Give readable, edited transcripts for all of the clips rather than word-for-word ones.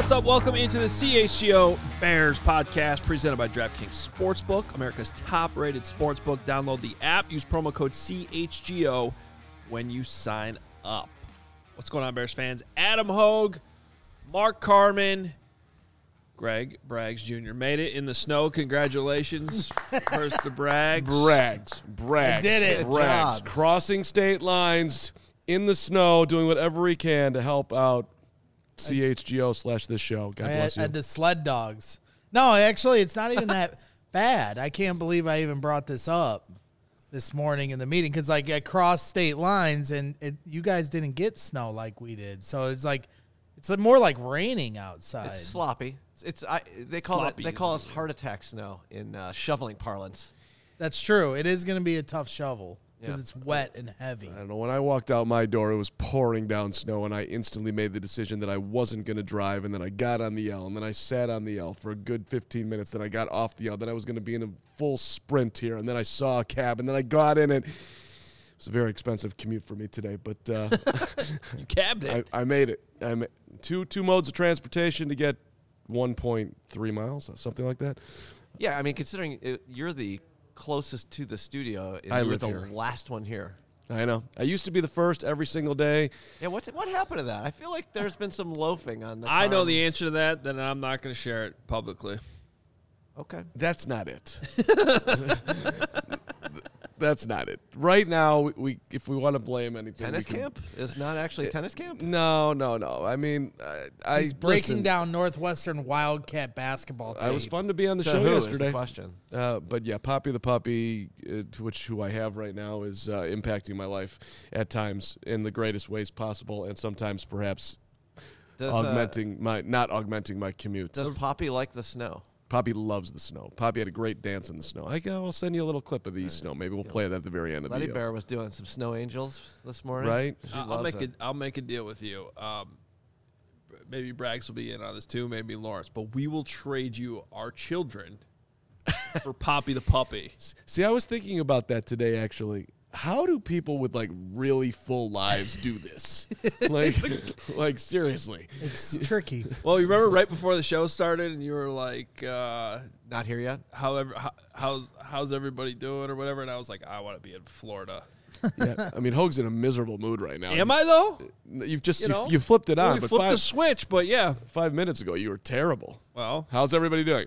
what's up? Welcome into the CHGO Bears podcast presented by DraftKings Sportsbook, America's top-rated sportsbook. Download the app. Use promo code CHGO when you sign up. What's going on, Bears fans? Adam Hogue, Mark Carman, Greg Braggs Jr. made it in the snow. Congratulations. First to Braggs. Braggs. I did it. Braggs. Crossing state lines in the snow, doing whatever he can to help out CHGO/this show. God bless you. I had the sled dogs. No, actually, it's not even that bad. I can't believe I even brought this up this morning in the meeting because, like, I crossed state lines and you guys didn't get snow like we did. So it's like it's more like raining outside. It's sloppy. They call us heart attack snow in shoveling parlance. That's true. It is going to be a tough shovel because it's wet and heavy. I don't know. When I walked out my door, it was pouring down snow, and I instantly made the decision that I wasn't going to drive, and then I got on the L, and then I sat on the L for a good 15 minutes. Then I got off the L. Then I was going to be in a full sprint here, and then I saw a cab, and then I got in it. It was a very expensive commute for me today, but You cabbed it. I made it. Two modes of transportation to get 1.3 miles, something like that. Yeah, I mean, considering you're the closest to the studio, and I you're live the here. last one here. I know. I used to be the first every single day. Yeah, what happened to that? I feel like there's been some loafing on the I know farm. the answer to that, then I'm not going to share it publicly. Okay. That's not it. That's not it. Right now, we if we want to blame anything, Tennis camp is not actually tennis camp? No. I mean, He's breaking down Northwestern Wildcat basketball tape. I was fun to be on the So show who is yesterday. the question? But yeah, Poppy the puppy, who I have right now, is impacting my life at times in the greatest ways possible, and sometimes perhaps not augmenting my commute. Does Poppy like the snow? Poppy loves the snow. Poppy had a great dance in the snow. I'll send you a little clip of the snow. Maybe we'll play that at the very end of Letty the Bear was doing some snow angels this morning. Right. She I'll loves make it. I'll make a deal with you. Maybe Braggs will be in on this too. Maybe Lawrence, but we will trade you our children for Poppy the puppy. See, I was thinking about that today, actually. How do people with, like, really full lives do this? Like seriously. It's tricky. Well, you remember right before the show started, and you were like, Not here yet? how's everybody doing or whatever, and I was like, I want to be in Florida. Yeah, I mean, Hogue's in a miserable mood right now. Am I though? You've just You know? you flipped it Well, on, you but flipped the switch, but yeah. 5 minutes ago you were terrible. Well, How's everybody doing?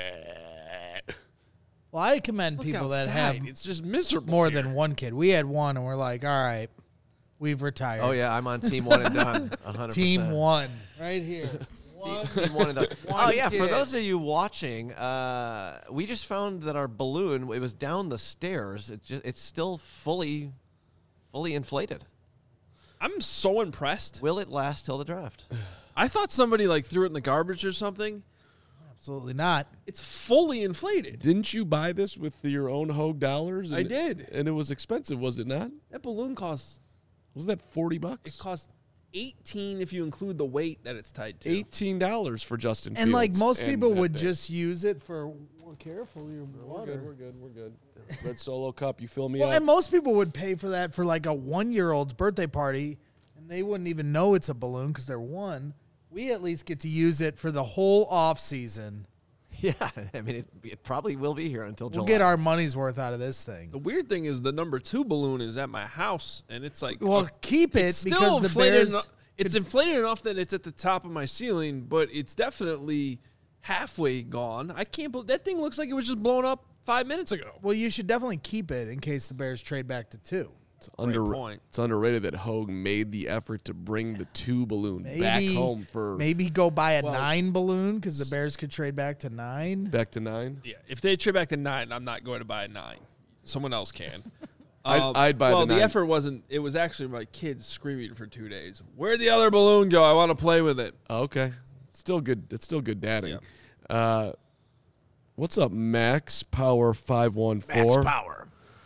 Well, I commend look people that outside. have It's just miserable. more here. than one kid. We had one, and we're like, all right, we've retired. Oh, yeah, I'm on team one and done. 100%. Team one, right here. Team one and done. Oh, yeah, for kid. those of you watching, we just found that our balloon, it was down the stairs. It's still fully inflated. I'm so impressed. Will it last till the draft? I thought somebody like threw it in the garbage or something. Absolutely not. It's fully inflated. Didn't you buy this with your own Hogue dollars? I did. And it was expensive, was it not? That balloon costs. Wasn't that $40? It costs $18 if you include the weight that it's tied to. $18 for Justin Fields. And like most and people that would big. just use it for careful your water. We're good. Red Solo Cup, you fill me Well, up. and most people would pay for that for like a 1-year-old's birthday party, and they wouldn't even know it's a balloon because they're one. We at least get to use it for the whole off season. Yeah, I mean, it probably will be here until July. We'll get our money's worth out of this thing. The weird thing is the number 2 balloon is at my house, and it's like Well, keep it it's still because the inflated. Bears. It's inflated enough that it's at the top of my ceiling, but it's definitely halfway gone. I can't believe that thing looks like it was just blown up 5 minutes ago. Well, you should definitely keep it in case the Bears trade back to 2. It's, point. it's underrated that Hogue made the effort to bring the 2 balloon back home for Maybe go buy a Well- 9 balloon because the Bears could trade back to 9. back to 9. Yeah, if they trade back to 9, I'm not going to buy a 9. Someone else can. I'd buy well, the 9. the effort wasn't. It was actually my kids screaming for 2 days. Where'd the other balloon go? I want to play with it. Oh, okay. Still good. It's still good dadding. Yeah. What's up, Max Power 514? Max Power.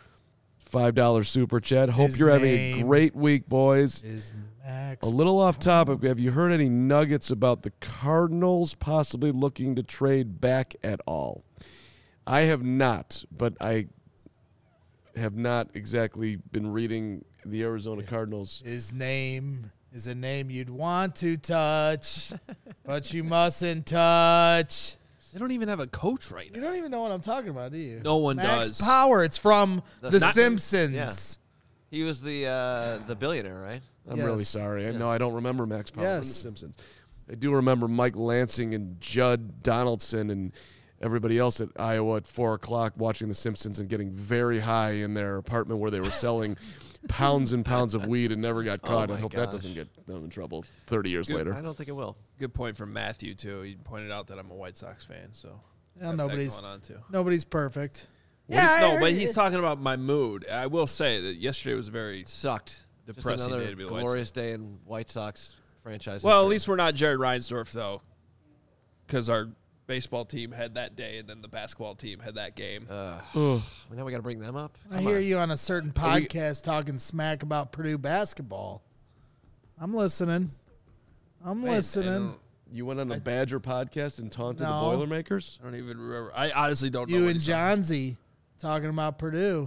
$5 super chat. Hope His you're having a name great week, boys. Is Max. A little off topic. Have you heard any nuggets about the Cardinals possibly looking to trade back at all? I have not, but I have not exactly been reading the Arizona Cardinals. His name is a name you'd want to touch, but you mustn't touch. They don't even have a coach right You now. don't even know what I'm talking about, do you? No one Max does. Power. It's from The Not- Simpsons. Yeah. He was the billionaire, right? I'm really Yes. sorry. No, I don't remember Max Power from The Yes. Simpsons. I do remember Mike Lansing and Judd Donaldson and everybody else at Iowa at 4 o'clock watching The Simpsons and getting very high in their apartment where they were selling pounds and pounds of weed and never got caught. I my hope that gosh. doesn't get them in trouble 30 years later. I don't think it will. Good point from Matthew, too. He pointed out that I'm a White Sox fan, so Yeah, got that nobody's going on, too. perfect. No, but he's talking about my mood. I will say that yesterday was very Sucked. depressing Just another day to be the White glorious day in White Sox franchise. Well, at history. least we're not Jared Reinsdorf, though, because our baseball team had that day, and then the basketball team had that game. Ugh. Now we got to bring them up. I hear you on a certain podcast talking smack about Purdue basketball. I'm listening. I'm listening. You went on a Badger podcast and taunted No. the Boilermakers? I don't even remember. I honestly don't know. You what and he's talking Johnsy talking about Purdue.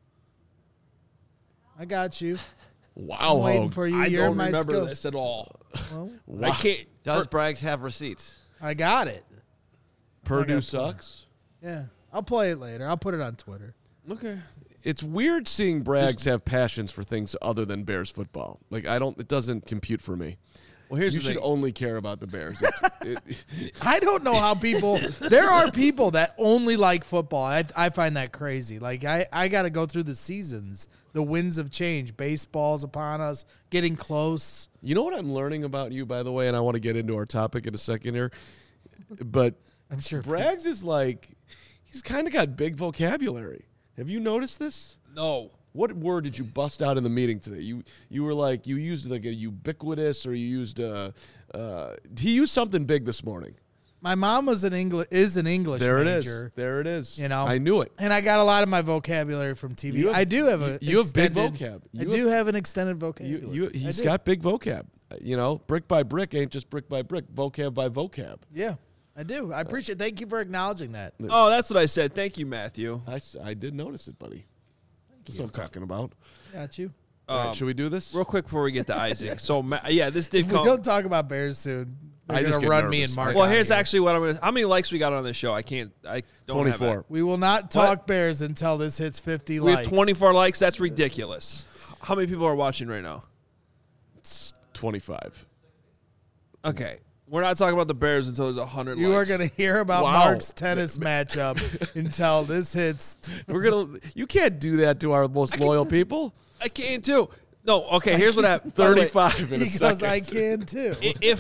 I got you. Wow, I'm waiting Hogue. for you. I You're don't my remember skills. this at all. Well, I can't. Does Braggs have receipts? I got it. Purdue gotta- sucks? Yeah. I'll play it later. I'll put it on Twitter. Okay. It's weird seeing Braggs have passions for things other than Bears football. Like, it doesn't compute for me. Well, here's You the should thing. only care about the Bears. I don't know how people. There are people that only like football. I find that crazy. Like I got to go through the seasons. The winds of change. Baseball's upon us. Getting close. You know what I'm learning about you, by the way, and I want to get into our topic in a second here, but I'm sure. Braggs is like, he's kind of got big vocabulary. Have you noticed this? No. What word did you bust out in the meeting today? You were like, you used like a ubiquitous, or you used he used something big this morning. My mom was an English There it major. is. There it is. You know, I knew it. And I got a lot of my vocabulary from TV. You have- I do have a. you have big extended- vocab. I You do have an extended vocabulary. He's I do. got big vocab. You know, brick by brick ain't just brick by brick. Vocab by vocab. Yeah, I do. I appreciate. Thank you for acknowledging that. Oh, that's what I said. Thank you, Matthew. I did notice it, buddy. That's what I'm talking about. Got you. All right, should we do this? Real quick before we get to Isaac. So, this did If we come. don't talk about Bears soon, I they're just gonna get run me nervous. and Mark. Well, out here's here. actually what I'm going to. How many likes we got on this show? I don't 24. have it. We will not talk Bears until this hits 50 We likes. have 24 likes. That's ridiculous. How many people are watching right now? It's 25. Okay. We're not talking about the Bears until there's 100 You are likes. going to hear about Wow. Mark's tennis matchup until this hits. You can't do that to our most loyal people. I can too. No, okay, here's what happened. By the way, 35 in a Because second. I can too.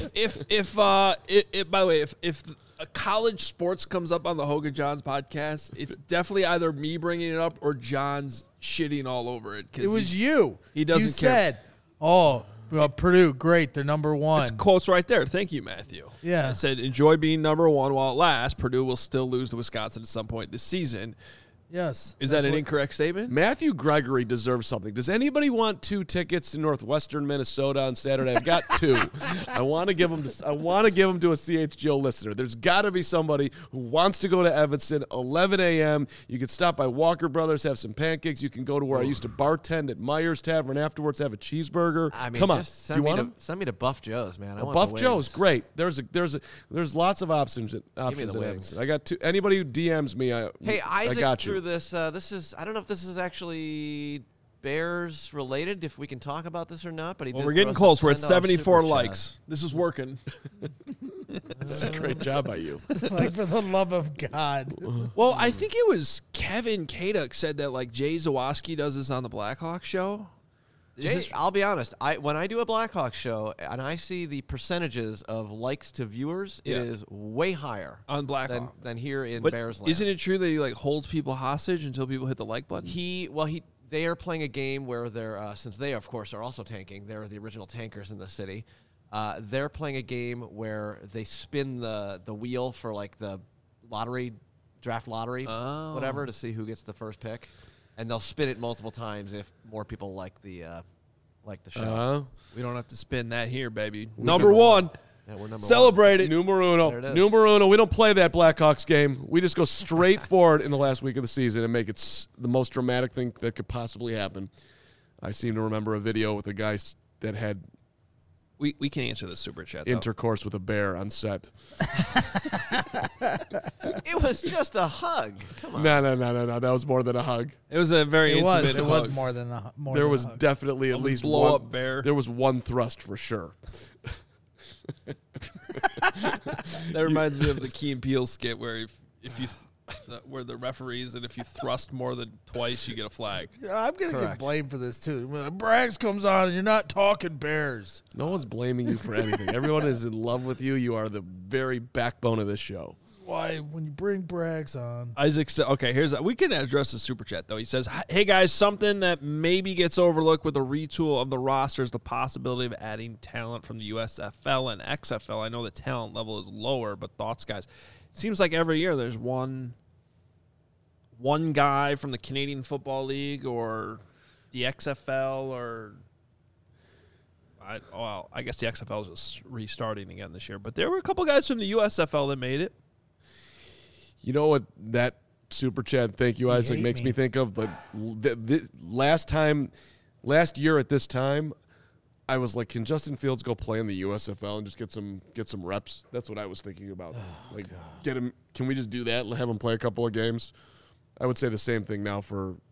By the way, if a college sports comes up on the Hogan Johns podcast, it's definitely either me bringing it up or John's shitting all over it. It was you. he doesn't You care. said, "Oh, well, Purdue, great, they're number one." Quotes right there. Thank you, Matthew. Yeah. I said, enjoy being number one while it lasts. Purdue will still lose to Wisconsin at some point this season. Yes. Is That's that an what- incorrect statement? Matthew Gregory deserves something. Does anybody want 2 tickets to Northwestern Minnesota on Saturday? I've got 2. I want to give them. I want to give them to a CHGO listener. There's got to be somebody who wants to go to Evanston. 11 a.m. You can stop by Walker Brothers, have some pancakes. You can go to where I used to bartend at Myers Tavern afterwards, have a cheeseburger. I mean, Come on, just do you want them? send me to Buff Joe's, man. I want Buff the Joe's wings. great. There's lots of options at the Evanston. wings. I got 2. Anybody who DMs me, Hey, I Isaac got you. threw this. This is. I don't know if this is actually Bears related. If we can talk about this or not, but he. Well, did we're throw getting us a close. We're at $10 74 super likes. This is working. That's a great job by you. Like, for the love of God. Well, I think it was Kevin Kaduk said that like Jay Zawoski does this on the Blackhawks show. Is Jay, this- I'll be honest. When I do a Blackhawks show and I see the percentages of likes to viewers, Yeah. it is way higher on Blackhawk. than here in But Bears land. isn't it true that he like holds people hostage until people hit the like button? They are playing a game where they're since they of course are also tanking. They're the original tankers in the city. They're playing a game where they spin the wheel for like the draft lottery, whatever, to see who gets the first pick, and they'll spin it multiple times if more people like the show. We don't have to spin that here, baby. can- Number one. Yeah, we're number Celebrate it. Numero There it uno. is. Numero uno. We don't play that Blackhawks game. We just go straight forward in the last week of the season and make it the most dramatic thing that could possibly happen. I seem to remember a video with a guy that had We can answer the super chat. Though. Intercourse with a bear on set. It was just a hug. Come on. No. That was more than a hug. It was a very intimate It was hug. more than a more. There than was a hug. definitely at least blow one up bear. There was one thrust for sure. That reminds me of the Key and Peele skit where if you where the referees and if you thrust more than twice, you get a flag. I'm gonna get Correct. blamed for this too. When Braggs comes on and you're not talking Bears. No one's blaming you for anything. Everyone is in love with you. You are the very backbone of this show. Why when you bring Braggs on? Isaac said, okay, we can address the super chat, though. He says, hey, guys, something that maybe gets overlooked with the retool of the roster is the possibility of adding talent from the USFL and XFL. I know the talent level is lower, but thoughts, guys? It seems like every year there's one guy from the Canadian Football League or the XFL or I guess the XFL is just restarting again this year. But there were a couple guys from the USFL that made it. You know what that super chat, thank you, Isaac, hate makes me me. think of? But last year at this time, I was like, can Justin Fields go play in the USFL and just get some reps? That's what I was thinking about. Get him. Can we just do that? Have him play a couple of games? I would say the same thing now for a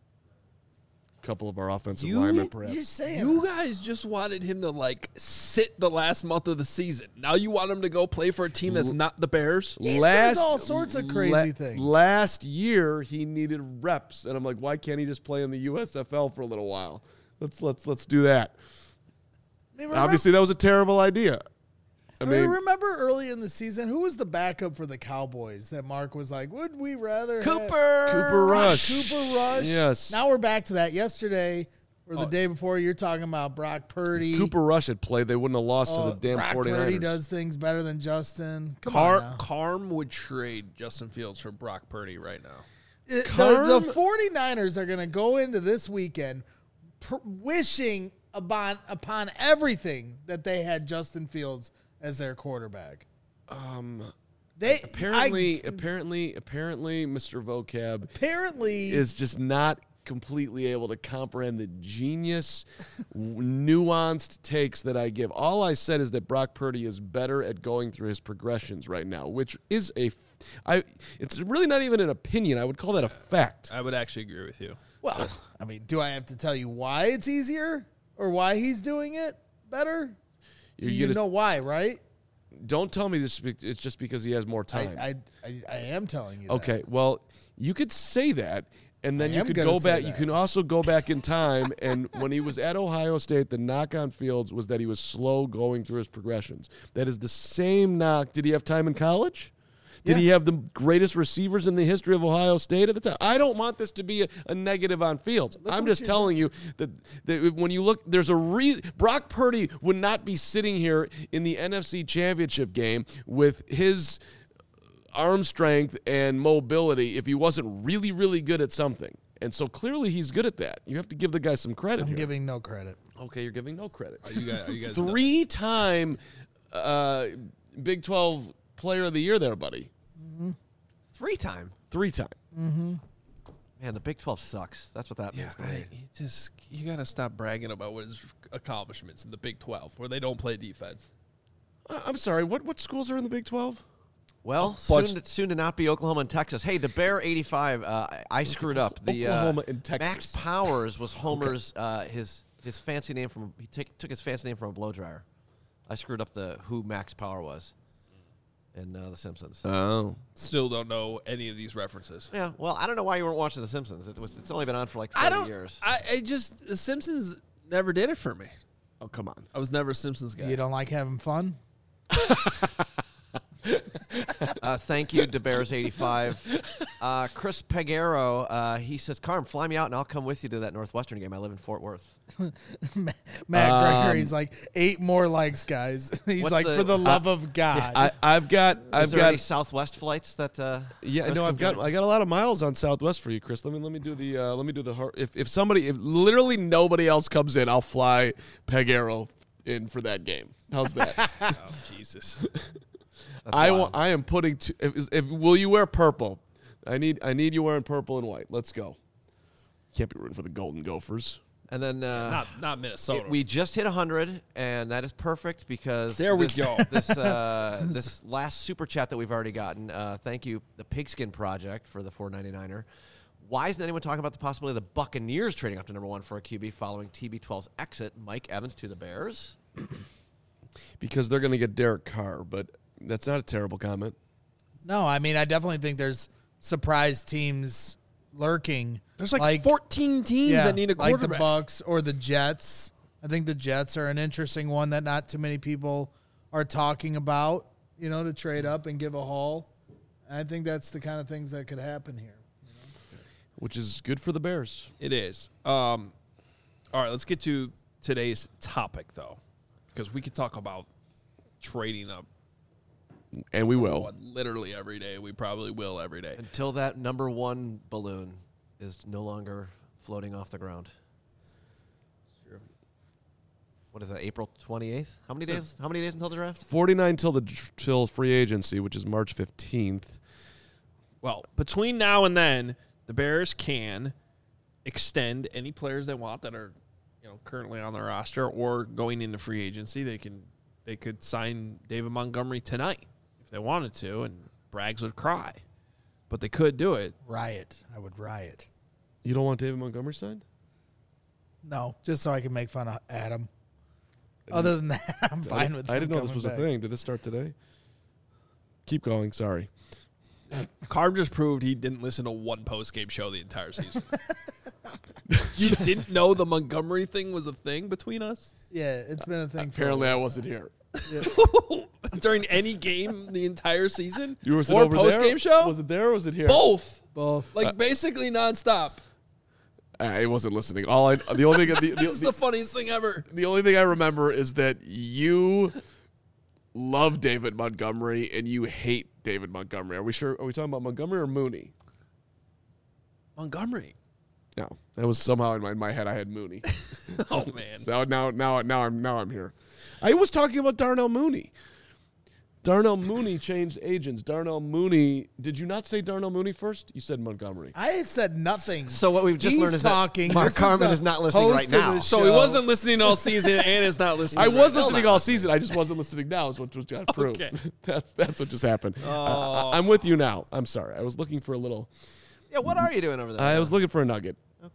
couple of our offensive linemen, perhaps. You're saying You guys just wanted him to, sit the last month of the season. Now you want him to go play for a team that's not the Bears? He says all sorts of crazy things. Last year he needed reps, and I'm like, why can't he just play in the USFL for a little while? Let's do that. Obviously, that was a terrible idea. I mean, remember early in the season, who was the backup for the Cowboys that Mark was like, would we rather have Cooper Rush. Cooper Rush? Yes. Now we're back to that. Yesterday or the day before, you're talking about Brock Purdy. Cooper Rush had played, they wouldn't have lost to the damn Brock 49ers. Purdy does things better than Justin. Come on now. Carm would trade Justin Fields for Brock Purdy right now. The 49ers are going to go into this weekend wishing upon everything that they had Justin Fields as their quarterback. Apparently, Mr. Vocab is just not completely able to comprehend the genius, nuanced takes that I give. All I said is that Brock Purdy is better at going through his progressions right now, which is it's really not even an opinion. I would call that a fact. I would actually agree with you. Well, I mean, do I have to tell you why it's easier or why he's doing it better? You know why, right? Don't tell me it's just because he has more time. I am telling you that. Okay, well, you could say that, and then I you am could gonna go say back. that. You can also go back in time, and when he was at Ohio State, the knock on Fields was that he was slow going through his progressions. That is the same knock. Did he have time in college? Did he have the greatest receivers in the history of Ohio State at the time? I don't want this to be a negative on Fields. I'm just telling you that when you look, there's Brock Purdy would not be sitting here in the NFC Championship game with his arm strength and mobility if he wasn't really, really good at something. And so clearly he's good at that. You have to give the guy some credit I'm here. giving no credit. Okay, you're giving no credit. Are you guys 3-time Big 12 Player of the Year there, buddy. 3-time. 3-time. Mm-hmm. Man, the Big 12 sucks. That's what that means to me. You got to stop bragging about what his accomplishments in the Big 12, where they don't play defense. I'm sorry. What schools are in the Big 12? Well, bunch- soon to not be Oklahoma and Texas. Hey, the Bear 85. I screwed up. The Oklahoma and Max Texas. Powers was Homer's his fancy name from. He took his fancy name from a blow dryer. I screwed up who Max Power was in The Simpsons. Oh. Still don't know any of these references. Yeah, well, I don't know why you weren't watching The Simpsons. It's only been on for like 30 years. The Simpsons never did it for me. Oh, come on. I was never a Simpsons guy. You don't like having fun? Thank you, DeBears85. Chris Peguero, he says, Carm, fly me out and I'll come with you to that Northwestern game. I live in Fort Worth. Matt Gregory's like 8 more likes, guys. He's What's like, the- for the love of God. I've got Is there any Southwest flights that? yeah, Chris no, can join? I got a lot of miles on Southwest for you, Chris. Let me do the if literally nobody else comes in, I'll fly Peguero in for that game. How's that? Oh, Jesus. I am putting will you wear purple? I need you wearing purple and white. Let's go. Can't be rooting for the Golden Gophers. And then not Minnesota. we just hit 100, and that is perfect because we go. This last super chat that we've already gotten. Thank you, the Pigskin Project, for the $4.99er. Why isn't anyone talking about the possibility of the Buccaneers trading up to number 1 for a QB following TB12's exit? Mike Evans to the Bears. Because they're going to get Derek Carr, but that's not a terrible comment. No, I mean, I definitely think there's surprise teams lurking. There's like 14 teams that need a quarterback. Like the Bucks or the Jets. I think the Jets are an interesting one that not too many people are talking about, to trade up and give a haul. And I think that's the kind of things that could happen here. Which is good for the Bears. It is. All right, let's get to today's topic, though, because we could talk about trading up. And we will. Literally every day. We probably will every day. Until that number 1 balloon is no longer floating off the ground. What is that, April 28th? How many days? How many days until the draft? 49 till free agency, which is March 15th. Well, between now and then, the Bears can extend any players they want that are, currently on their roster or going into free agency. They could sign David Montgomery tonight if they wanted to, and Braggs would cry. But they could do it. Riot. I would riot. You don't want David Montgomery signed? No, just so I can make fun of Adam. Other than that, I'm fine with him. I didn't know this was coming a back. thing. Did this start today? Keep going. Sorry. Carm just proved he didn't listen to one post-game show the entire season. You didn't know the Montgomery thing was a thing between us? Yeah, it's been a thing. Apparently, I wasn't here. During any game the entire season? You were or over post-game there? show? Was it there or was it here? Both. Both. Like, basically nonstop. I wasn't listening. The only thing This is the funniest thing ever. The only thing I remember is that you love David Montgomery and you hate David Montgomery. Are we sure? Are we talking about Montgomery or Mooney? Montgomery. No, that was somehow in my head. I had Mooney. Oh, man. So now I'm here. I was talking about Darnell Mooney. Darnell Mooney changed agents. Darnell Mooney. Did you not say Darnell Mooney first? You said Montgomery. I said nothing. So what we've just He's learned is talking. that Mark This is Carman the is not listening host right of the now. So he show. wasn't listening all season and is not listening. I was Still listening not all season. I just wasn't listening now. Is what just got proved. Okay. That's what just happened. Oh. I'm with you now. I'm sorry. I was looking for a little. Yeah, what are you doing over there? I was looking for a nugget.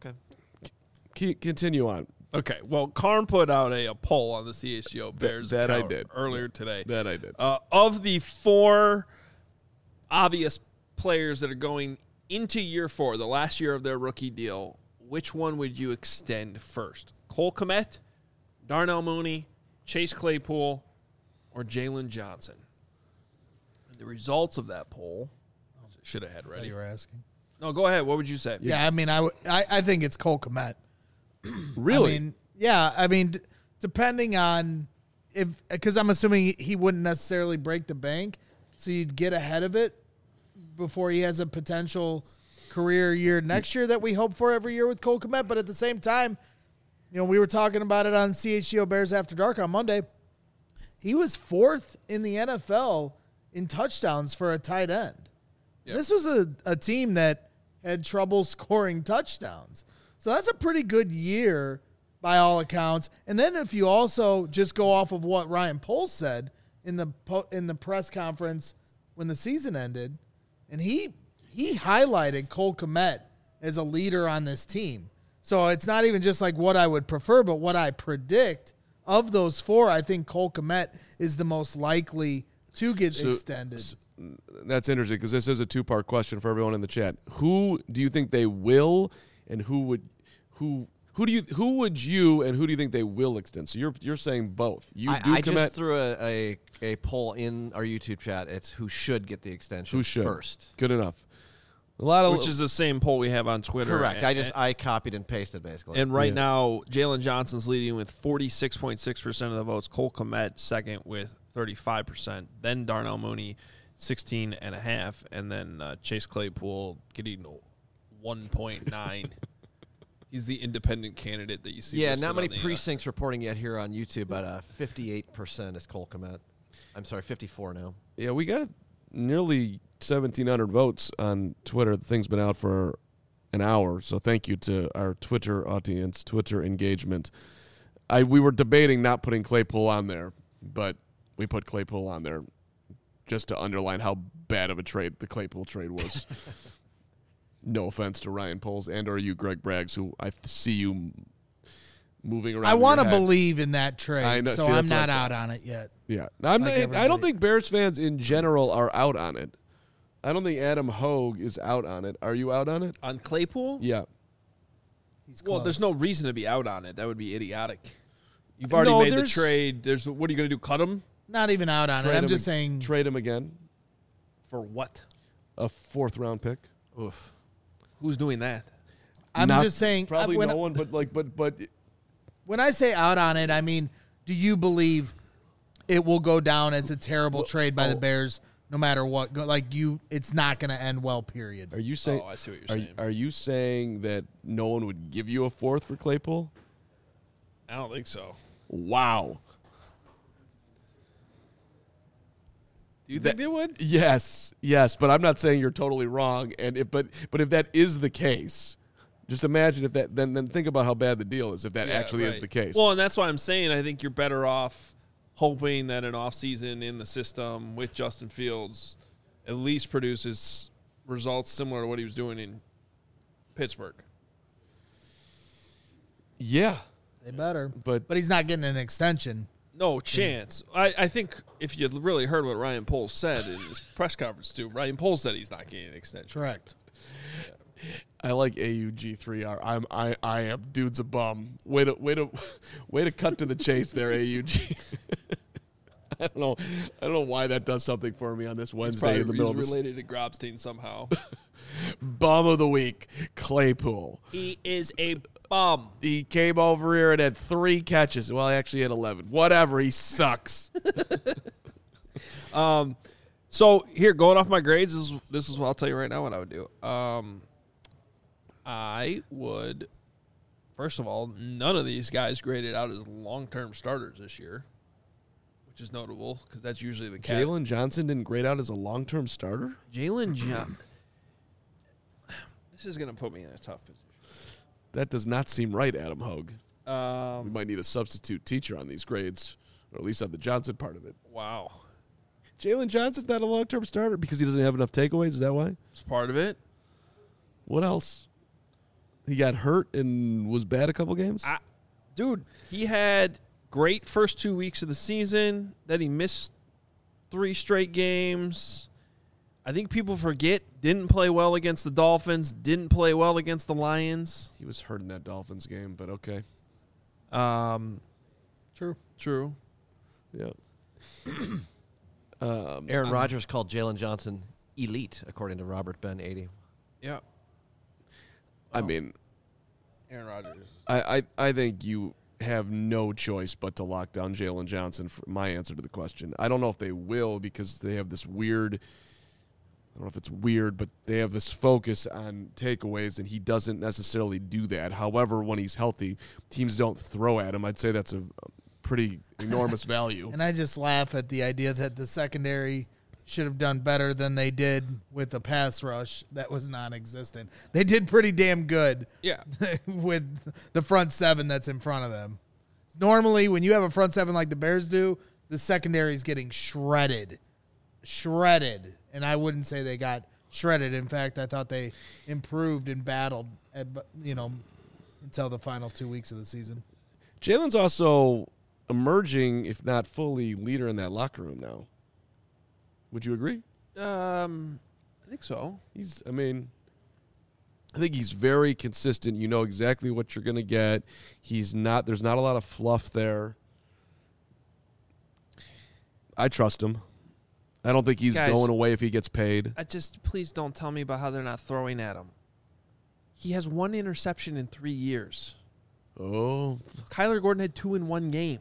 Okay. Continue on. Okay, well, Karn put out a poll on the CHGO Bears that I account did. earlier today. That I did. Of the 4 obvious players that are going into year 4, the last year of their rookie deal, which one would you extend first? Cole Kmet, Darnell Mooney, Chase Claypool, or Jalen Johnson? And the results of that poll, should have had ready. You were asking. No, go ahead. What would you say? Yeah, I mean, I think it's Cole Kmet. Really? I mean, depending on because I'm assuming he wouldn't necessarily break the bank, so you'd get ahead of it before he has a potential career year next year that we hope for every year with Cole Kmet. But at the same time, we were talking about it on CHGO Bears After Dark on Monday. He was 4th in the NFL in touchdowns for a tight end. Yep. This was a team that had trouble scoring touchdowns. So that's a pretty good year by all accounts. And then if you also just go off of what Ryan Poles said in the press conference when the season ended, and he highlighted Cole Kmet as a leader on this team. So it's not even just like what I would prefer, but what I predict of those 4, I think Cole Kmet is the most likely to get extended. That's interesting because this is a 2-part question for everyone in the chat. Who do you think they will, and who would you and who do you think they will extend? So you're saying both. I just threw a poll in our YouTube chat. It's who should get the extension first. Good enough. Which is the same poll we have on Twitter. Correct. I copied and pasted basically. And right now, Jalen Johnson's leading with 46.6% of the votes. Cole Kmet second with 35%. Then Darnell Mooney 16.5%, and then Chase Claypool getting 1.9. He's the independent candidate that you see. Yeah, not many precincts reporting yet here on YouTube, but 58% is Cole Kmet. I'm sorry, 54 now. Yeah, we got nearly 1,700 votes on Twitter. The thing's been out for an hour. So thank you to our Twitter audience, Twitter engagement. We were debating not putting Claypool on there, but we put Claypool on there just to underline how bad of a trade the Claypool trade was. No offense to Ryan Poles and or you, Greg Braggs, who I see you moving around. I want to your head. believe in that trade, I know. so See, I'm that's what I not said. out on it yet. Yeah, Like I don't everybody. think Bears fans in general are out on it. I don't think Adam Hogue is out on it. Are you out on it? On Claypool? Yeah. He's Well, there's no close. reason to be out on it. That would be idiotic. You've already No, made the there's- trade. What are you going to do? Cut him Not even out on it. Trade I'm him just ag- saying. Trade him again. for what? A 4th round pick. Oof. Who's doing that? I'm Not- just saying. Probably when, no one, but when I say out on it, I mean, do you believe it will go down as a terrible trade by the Bears, no matter what? It's not going to end well. Period. are you saying? Oh, I see what you're saying. Are you saying that no one would give you a 4th for Claypool? I don't think so. Wow. Do you think they would? Yes, but I'm not saying you're totally wrong. And but if that is the case, just imagine if that. Then think about how bad the deal is if that actually is right. the case. Well, and that's why I'm saying I think you're better off hoping that an offseason in the system with Justin Fields at least produces results similar to what he was doing in Pittsburgh. yeah, They better. but But he's not getting an extension. No chance. I think if you really heard what Ryan Poles said in his press conference too, Ryan Poles said he's not getting an extension. Correct. I like AUG3R. I am dude's a bum. Way to cut to the chase there, AUG. I don't know why that does something for me on this Wednesday in the middle of He's this. related to Grobstein somehow. Bum of the week, Claypool. He is a bum. He came over here and had 3 catches. Well, he actually had 11. Whatever. He sucks. So here, going off my grades, this is what I'll tell you right now what I would do. I would, first of all, none of these guys graded out as long-term starters this year, which is notable because that's usually the case. Jalen Johnson didn't grade out as a long-term starter? Jalen Johnson. This is going to put me in a tough position. That does not seem right, Adam Hogue. We Um, might need a substitute teacher on these grades, or at least on the Johnson part of it. wow. Jalen Johnson's not a long-term starter because he doesn't have enough takeaways. Is that why? It's part of it. What else? He got hurt and was bad a couple games? Dude, he had great first 2 weeks of the season. Then he missed 3 straight games. I think people forget, didn't play well against the Dolphins, didn't play well against the Lions. He was hurt in that Dolphins game, but okay. True. Yeah. Aaron Rodgers called Jalen Johnson elite, according to Robert Ben 80. Yeah. I mean, Aaron Rodgers. I think you have no choice but to lock down Jalen Johnson for my answer to the question. I don't know if they will because they have this weird, I don't know if it's weird, but they have this focus on takeaways, and he doesn't necessarily do that. However, when he's healthy, teams don't throw at him. I'd say that's a pretty enormous value. And I just laugh at the idea that the secondary should have done better than they did with the pass rush that was non-existent. They did pretty damn good Yeah. with the front 7 that's in front of them. Normally, when you have a front 7 like the Bears do, the secondary is getting shredded. And I wouldn't say they got shredded. In fact, I thought they improved and battled, until the final 2 weeks of the season. Jalen's also emerging, if not fully, leader in that locker room now. Would you agree? I think so. I think he's very consistent. You know exactly what you're going to get. There's not a lot of fluff there. I trust him. I don't think he's Guys, going away if he gets paid. Please don't tell me about how they're not throwing at him. He has 1 interception in 3 years. Oh, Kyler Gordon had 2 in 1 game.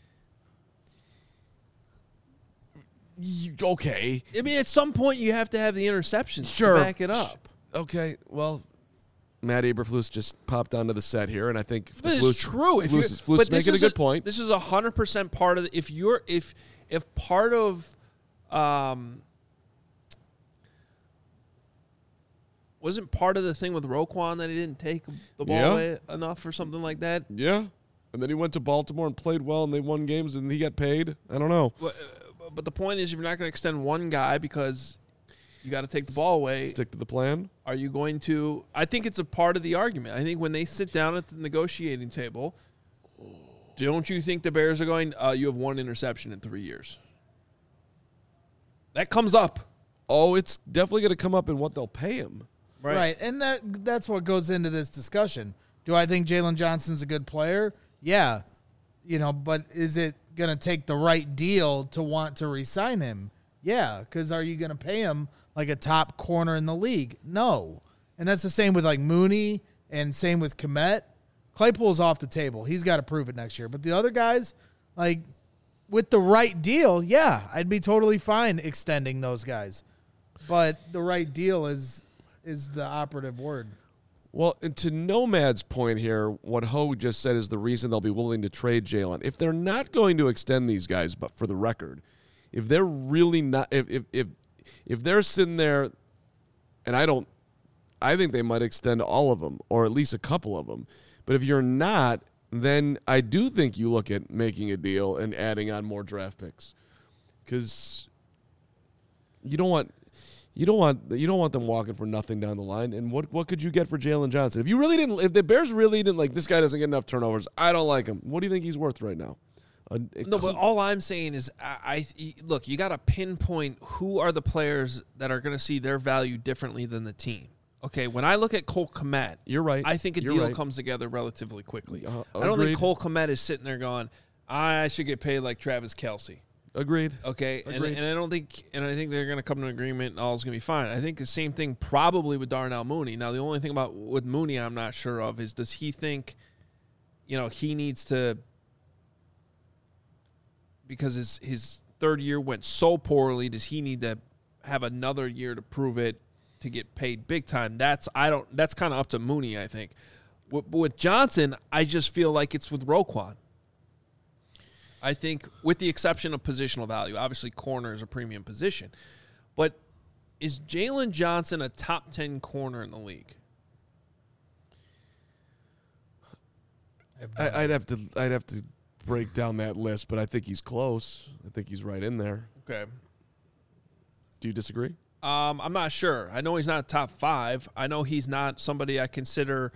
okay. I mean, at some point you have to have the interceptions Sure. to back it up. Okay, well, Matt Eberflus just popped onto the set here, and I think But it's true. Flus is making a good point. This is 100% part of if part of wasn't part of the thing with Roquan that he didn't take the ball away enough or something like that? Yeah. And then he went to Baltimore and played well, and they won games, and he got paid. I don't know. But the point is, if you're not going to extend one guy because you got to take the ball away, Stick to the plan. are you going to – I think it's a part of the argument. I think when they sit down at the negotiating table, don't you think the Bears are going, you have one interception in 3 years? That comes up. Oh, it's definitely going to come up in what they'll pay him. Right. And that's what goes into this discussion. Do I think Jalen Johnson's a good player? Yeah. But is it going to take the right deal to want to re-sign him? Yeah, because are you going to pay him like a top corner in the league? No. And that's the same with like Mooney and same with Kmet. Claypool's off the table. He's got to prove it next year. But the other guys, like with the right deal, yeah, I'd be totally fine extending those guys. But the right deal is the operative word. Well, and to Nomad's point here, what Ho just said is the reason they'll be willing to trade Jalen. If they're not going to extend these guys, but for the record, if they're really not, if they're sitting there, and I think they might extend all of them, or at least a couple of them. But if you're not, then I do think you look at making a deal and adding on more draft picks, because you don't want them walking for nothing down the line. And what could you get for Jalen Johnson? If the Bears really didn't like this guy doesn't get enough turnovers, I don't like him. What do you think he's worth right now? No, but all I'm saying is, look, you got to pinpoint who are the players that are going to see their value differently than the team. Okay, when I look at Cole Kmet, you're right. I think a deal comes together relatively quickly. I don't think Cole Kmet is sitting there going, I should get paid like Travis Kelce. Agreed. Okay, Agreed. And I think they're going to come to an agreement and all's going to be fine. I think the same thing probably with Darnell Mooney. Now, the only thing with Mooney I'm not sure of is, does he think, he needs to, because his third year went so poorly, does he need to have another year to prove it to get paid big time? That's kind of up to Mooney, I think. With Johnson, I just feel like it's with Roquan. I think, with the exception of positional value, obviously corner is a premium position. But is Jalen Johnson a top 10 corner in the league? I'd have to break down that list, but I think he's close. I think he's right in there. Okay. Do you disagree? I'm not sure. I know he's not top 5. I know he's not somebody I consider.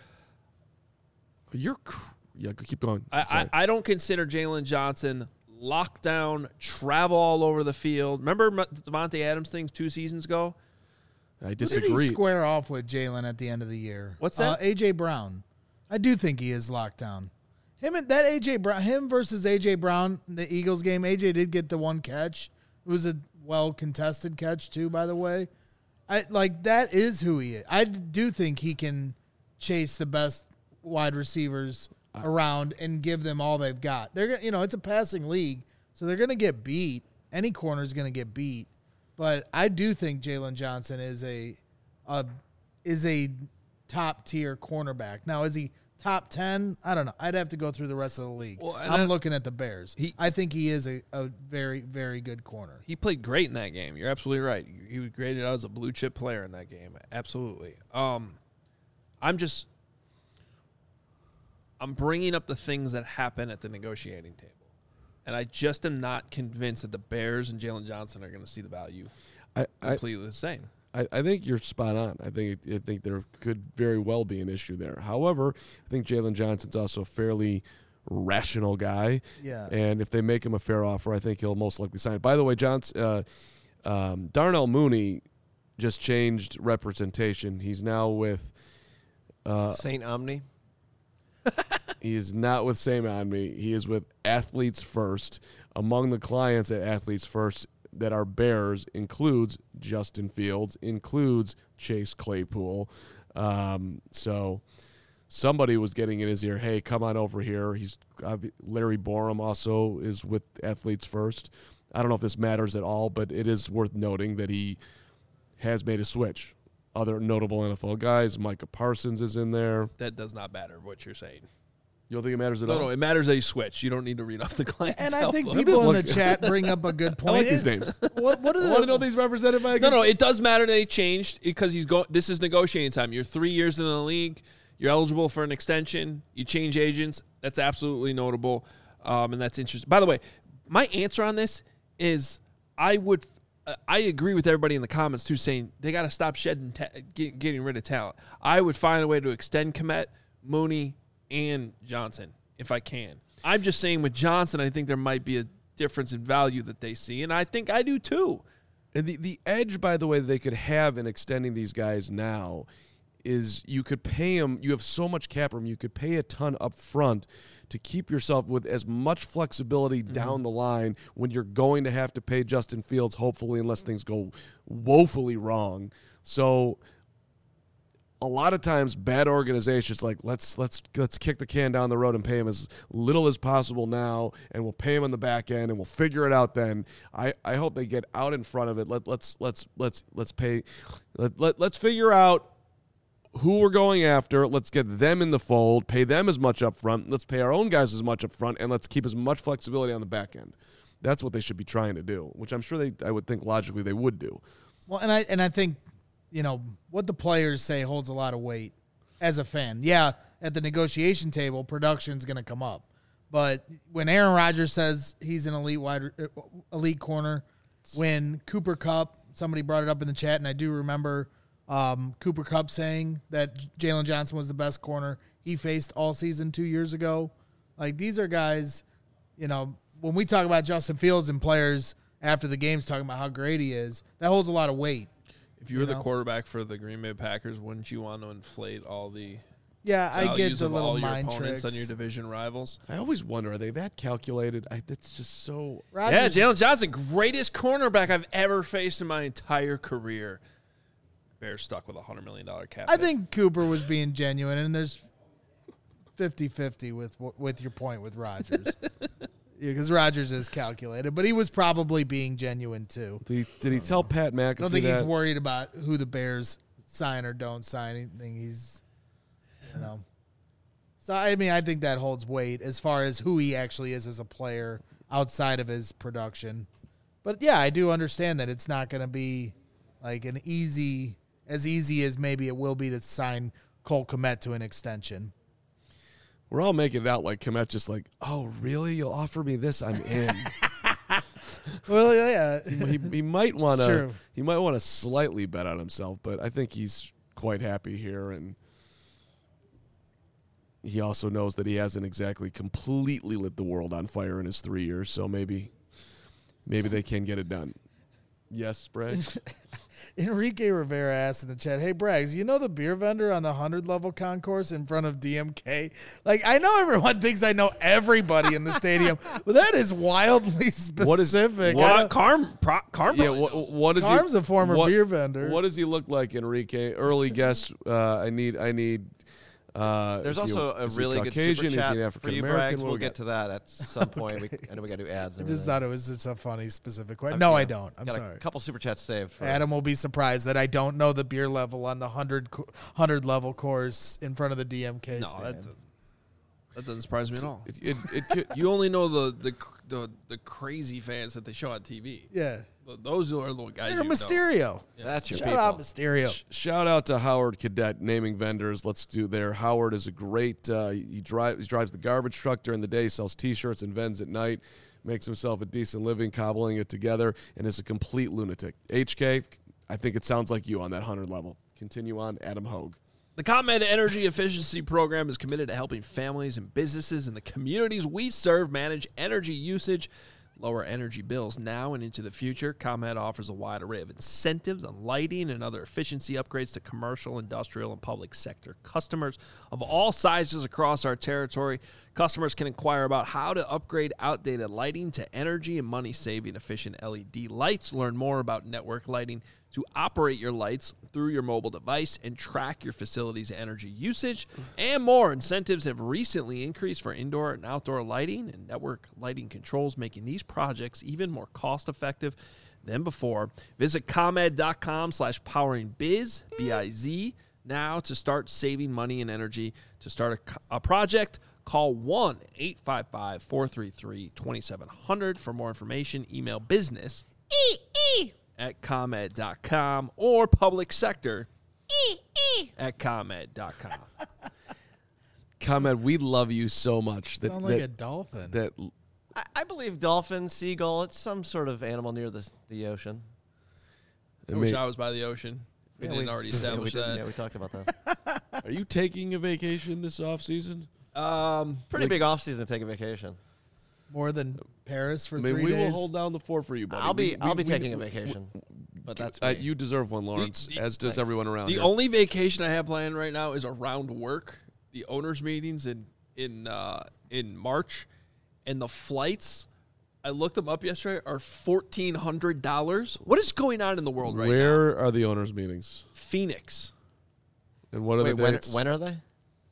Yeah, keep going. I don't consider Jalen Johnson lockdown, travel all over the field. Remember Devontae Adams thing 2 seasons ago? I disagree. Who did he square off with Jalen at the end of the year? What's that? A.J. Brown. I do think he is locked down. Him versus A.J. Brown, the Eagles game, A.J. did get the one catch. It was a well-contested catch, too, by the way. That is who he is. I do think he can chase the best wide receivers around and give them all they've got. They're it's a passing league, so they're going to get beat. Any corner is going to get beat, but I do think Jalen Johnson is a top tier cornerback. Now, is he top 10? I don't know. I'd have to go through the rest of the league. Well, I'm looking at the Bears. I think he is a very, very good corner. He played great in that game. You're absolutely right. He was graded out as a blue chip player in that game. Absolutely. I'm bringing up the things that happen at the negotiating table. And I just am not convinced that the Bears and Jalen Johnson are going to see the value completely the same. I think you're spot on. I think there could very well be an issue there. However, I think Jalen Johnson's also a fairly rational guy. Yeah. And if they make him a fair offer, I think he'll most likely sign it. By the way, Darnell Mooney just changed representation. He's now with St. Omni. He is not with St. Omni. He is with Athletes First. Among the clients at Athletes First that are Bears includes Justin Fields, includes Chase Claypool. So somebody was getting in his ear, hey, come on over here. Larry Borum also is with Athletes First. I don't know if this matters at all, but it is worth noting that he has made a switch. Other notable NFL guys, Micah Parsons is in there. That does not matter what you're saying. You don't think it matters at No, all? no, it matters that you switch. You don't need to read off the client's And I think book. people in the looking. chat bring up a good I point. like these names. What are I want to know the these represented by a No, good no, it does matter that they changed because this is negotiating time. You're 3 years in the league. You're eligible for an extension. You change agents. That's absolutely notable, and that's interesting. By the way, my answer on this is I agree with everybody in the comments too, saying they got to stop shedding, getting rid of talent. I would find a way to extend Kmet, Mooney, and Johnson if I can. I'm just saying with Johnson, I think there might be a difference in value that they see, and I think I do too. And the edge, by the way, they could have in extending these guys now is you could pay them. You have so much cap room. You could pay a ton up front to keep yourself with as much flexibility down the line when you're going to have to pay Justin Fields, hopefully, unless things go woefully wrong. So a lot of times bad organizations like let's kick the can down the road and pay him as little as possible now, and we'll pay him on the back end and we'll figure it out then. I hope they get out in front of it. Let's figure out who we're going after. Let's get them in the fold, pay them as much up front. Let's pay our own guys as much up front, and let's keep as much flexibility on the back end. That's what they should be trying to do, which I'm sure I would think logically they would do. Well, and I think, what the players say holds a lot of weight as a fan. Yeah, at the negotiation table, production's going to come up. But when Aaron Rodgers says he's an elite corner, when Cooper Kupp, somebody brought it up in the chat, and I do remember Cooper Kupp saying that Jalen Johnson was the best corner he faced all season 2 years ago. Like, these are guys, when we talk about Justin Fields and players after the games talking about how great he is, that holds a lot of weight. If you were the quarterback for the Green Bay Packers, wouldn't you want to inflate all the I get values the of little all your mind opponents tricks on your division rivals? I always wonder, are they that calculated? That's just so... Yeah, Jalen Johnson, greatest cornerback I've ever faced in my entire career. Bears stuck with a $100 million cap. I think Cooper was being genuine, and there's 50-50 with your point with Rodgers. Because Rodgers is calculated, but he was probably being genuine too. Did he tell Pat McAfee I don't think that? he's worried about who the Bears sign or don't sign. Anything he's, So, I mean, I think that holds weight as far as who he actually is as a player outside of his production. But, yeah, I do understand that it's not going to be like as easy as maybe it will be to sign Cole Kmet to an extension. We're all making it out like Kmet's just like, oh, really? You'll offer me this? I'm in. Well, yeah. he might want to. true. He might want to slightly bet on himself, but I think he's quite happy here, and he also knows that he hasn't exactly completely lit the world on fire in his 3 years. So maybe they can get it done. Yes, Bragg? Enrique Rivera asked in the chat, hey, Braggs, you know the beer vendor on the 100-level concourse in front of DMK? Like, I know everyone thinks I know everybody in the stadium, but that is wildly specific. Carm Yeah, what is Carm's a former beer vendor. What does he look like, Enrique? Early guess. I need. There's also a really good Caucasian? super Is he an chat African for you, American? Braggs. What We'll we get got? to that at some point. I know we got to do ads. I And just everything. thought it was just a funny, specific question. No, I don't. I'm Got sorry. a couple super chats saved. For Adam will be surprised that I don't know the beer level on the 100-level course in front of the DMK No, stand. that doesn't surprise me at all. It You only know the crazy fans that they show on TV. Yeah. Those are the guys. They're you know. Mysterio. That's your Shout people. out Mysterio. Shout out to Howard Cadet naming vendors. Let's do there. Howard is a great. He drives the garbage truck during the day, sells T-shirts and vends at night, makes himself a decent living cobbling it together, and is a complete lunatic. HK, I think it sounds like you on that 100 level. Continue on, Adam Hogue. The ComEd Energy Efficiency Program is committed to helping families and businesses in the communities we serve manage energy usage, lower energy bills now and into the future. ComEd offers a wide array of incentives on lighting and other efficiency upgrades to commercial, industrial, and public sector customers of all sizes across our territory. Customers can inquire about how to upgrade outdated lighting to energy and money-saving efficient LED lights. Learn more about network lighting to operate your lights through your mobile device and track your facility's energy usage and more. Incentives have recently increased for indoor and outdoor lighting and network lighting controls, making these projects even more cost-effective than before. Visit ComEd.com/poweringbiz, B-I-Z, Now to start saving money and energy. To start a project, call 1-855-433-2700 for more information. Email business at ComEd.com or public sector at ComEd.com. ComEd, we love you so much. Sound like a dolphin. I believe dolphin, seagull, it's some sort of animal near the ocean. I wish I was by the ocean. We didn't already establish that. Yeah, we talked about that. Are you taking a vacation this off season? Pretty big off season to take a vacation. More than Paris for 3 we days. will hold down the fort for you, buddy. I'll be taking a vacation. But that's me. You deserve one, Lawrence, as does everyone around The here. only vacation I have planned right now is around work. The owners' meetings in March, and the flights. I looked them up yesterday. Are $1,400. What is going on in the world right now? Where are the owners' meetings? Phoenix. And what are the dates? When are they?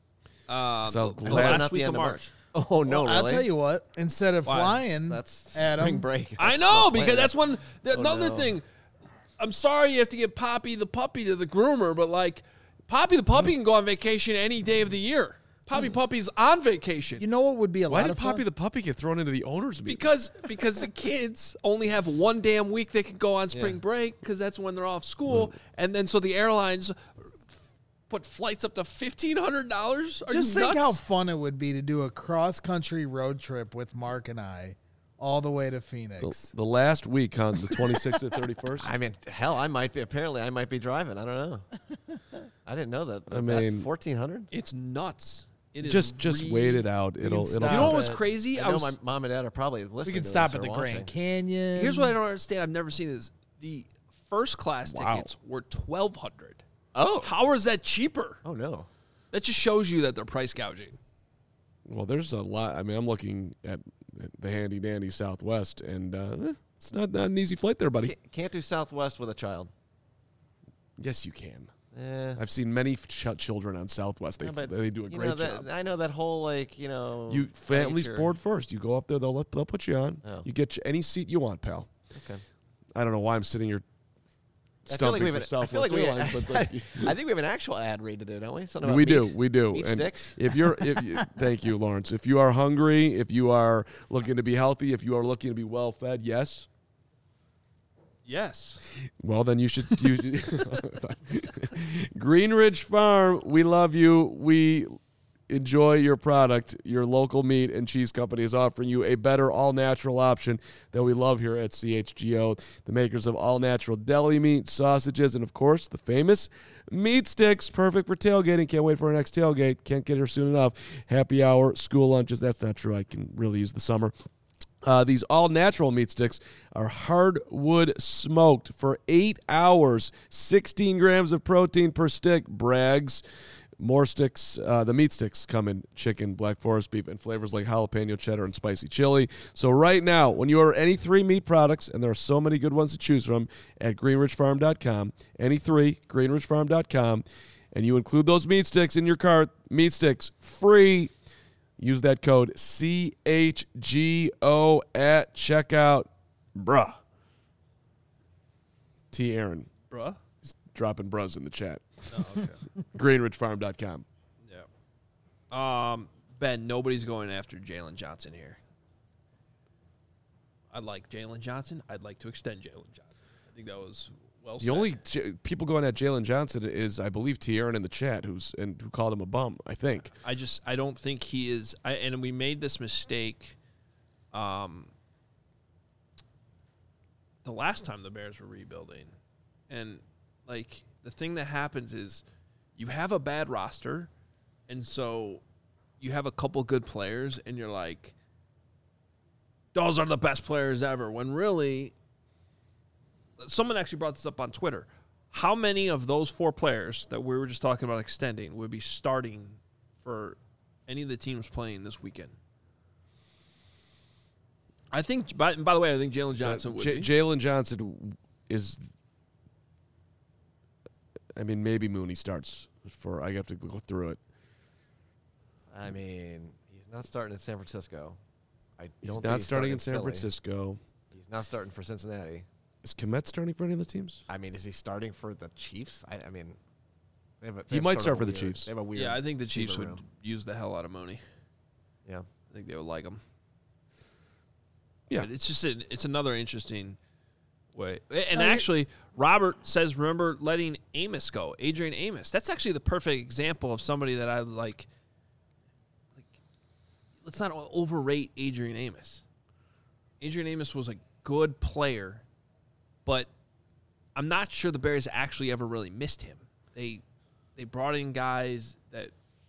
So the glad- last Not the week of end March. Oh no, Well, really? I'll tell you what. Instead of Why? flying, That's Adam, spring break. I That's know, not because planned. that's when another no. thing. I'm sorry you have to get Poppy the puppy to the groomer, but like Poppy the puppy can go on vacation any day of the year. Poppy Puppy's on vacation. you know what would be a Why lot did of Poppy fun? the puppy get thrown into the owners' meeting? Because the kids only have one damn week they can go on spring break because that's when they're off school, and then so the airlines put flights up to $1,500. Just think how fun it would be to do a cross-country road trip with Mark and I all the way to Phoenix. The last week on the 26th to 31st. I mean, hell, I might be driving. I don't know. I didn't know that. I mean, 1,400. It's nuts. It is just wait it out. It'll. stop. You know what was it. crazy? I know my mom and dad are probably listening. We can to stop this at or the Grand watching. Canyon. Here's what I don't understand. I've never seen this. The first class tickets were $1,200. Oh. How is that cheaper? Oh no. That just shows you that they're price gouging. Well, there's a lot. I mean, I'm looking at the handy dandy Southwest, and it's not an easy flight there, buddy. Can't do Southwest with a child. Yes, you can. Eh. I've seen many children on Southwest. They Yeah, but they do a you great know that, job. I know that whole You families nature. board first. You go up there. They'll put you on. Oh. You get any seat you want, pal. Okay. I don't know why I'm sitting here I feel like stumping we for have. I feel Southwest like we. Airlines, but like, I think we have an actual ad read to do, don't we? Something about we meat. do. Meat And sticks. if you, thank you, Lawrence. If you are hungry, if you are looking to be healthy, if you are looking to be well fed, yes. Yes. Well, then you should. Greenridge Farm, we love you. We enjoy your product. Your local meat and cheese company is offering you a better all-natural option that we love here at CHGO. The makers of all-natural deli meat, sausages, and, of course, the famous meat sticks. Perfect for tailgating. Can't wait for our next tailgate. Can't get here soon enough. Happy hour, school lunches. That's not true. I can really use the summer. These all-natural meat sticks are hardwood smoked for 8 hours. 16 grams of protein per stick. Brags. More sticks. The meat sticks come in chicken, black forest beef, and flavors like jalapeno, cheddar, and spicy chili. So right now, when you order any 3 meat products, and there are so many good ones to choose from at greenridgefarm.com, any 3, greenridgefarm.com, and you include those meat sticks in your cart, meat sticks free. Use that code CHGO at checkout. Bruh. T. Aaron. Bruh. He's dropping bruhs in the chat. Oh, okay. GreenridgeFarm.com. Yeah. Ben, nobody's going after Jalen Johnson here. I like Jalen Johnson. I'd like to extend Jalen Johnson. I think that was well said. The only people going at Jalen Johnson is, I believe, T. Aaron in the chat, who called him a bum, I think. I don't think he is. And we made this mistake the last time the Bears were rebuilding. And, like, the thing that happens is you have a bad roster, and so you have a couple good players, and you're like, those are the best players ever, when really – someone actually brought this up on Twitter. How many of those 4 players that we were just talking about extending would be starting for any of the teams playing this weekend? I think, by the way, I think Jalen Johnson would be. Jalen Johnson is, I mean, maybe Mooney starts for, I have to go through it. I mean, he's not starting in San Francisco. He's not starting in San Francisco. He's not starting for Cincinnati. Is Kmet starting for any of the teams? I mean, is he starting for the Chiefs? I mean, He might start for the Chiefs. They have a weird. Yeah, I think the Chiefs receiver would room. use the hell out of Mooney. Yeah. I think they would like him. Yeah. But it's just it's another interesting way. And actually, Robert says, remember letting Amos go, Adrian Amos. That's actually the perfect example of somebody that I like. Let's not overrate Adrian Amos. Adrian Amos was a good player, but I'm not sure the Bears actually ever really missed him. They brought in guys that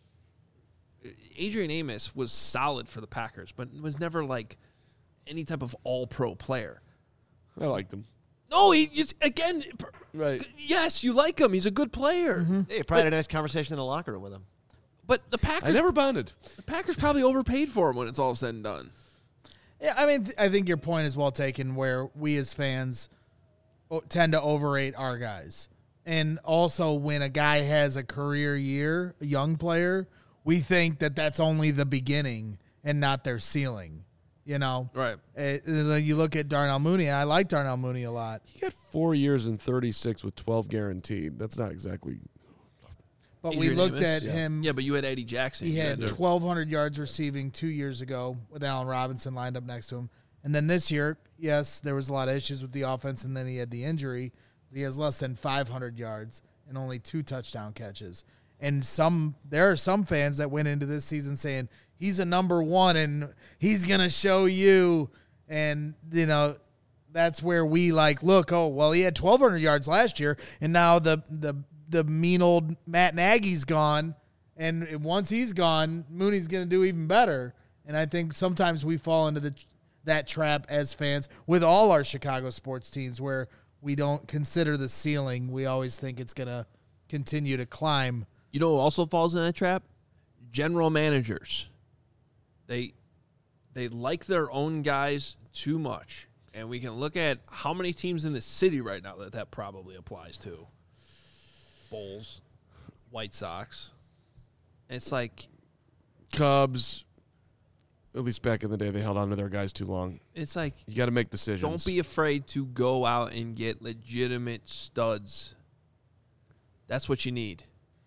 Adrian Amos was solid for the Packers, but was never like any type of all-pro player. I liked him. No, again, Right. yes, you like him. He's a good player. Hey, probably had a nice conversation in the locker room with him. But the Packers, I never bonded. the Packers probably overpaid for him when it's all said and done. Yeah, I mean, I think your point is well taken where we as fans tend to overrate our guys. And also when a guy has a career year, a young player, we think that that's only the beginning and not their ceiling, you know? Right. You look at Darnell Mooney, and I like Darnell Mooney a lot. He got 4 years and 36 with 12 guaranteed. That's not exactly. But we Adrian looked Amos? at him. Yeah, but you had Eddie Jackson. He You had to- 1,200 yards receiving 2 years ago with Allen Robinson lined up next to him. And then this year, yes, there was a lot of issues with the offense, and then he had the injury. He has less than 500 yards and only 2 touchdown catches. And there are some fans that went into this season saying he's a number one and he's going to show you. And, you know, that's where we look, oh, well, he had 1,200 yards last year, and now the mean old Matt Nagy's gone, and once he's gone, Mooney's going to do even better. And I think sometimes we fall into that trap as fans with all our Chicago sports teams where we don't consider the ceiling. We always think it's going to continue to climb. You know who also falls in that trap? General managers. They like their own guys too much. And we can look at how many teams in the city right now that probably applies to. Bulls, White Sox. And it's like, Cubs, at least back in the day, they held on to their guys too long. it's like, You got to make decisions. don't be afraid to go out and get legitimate studs. That's what you need.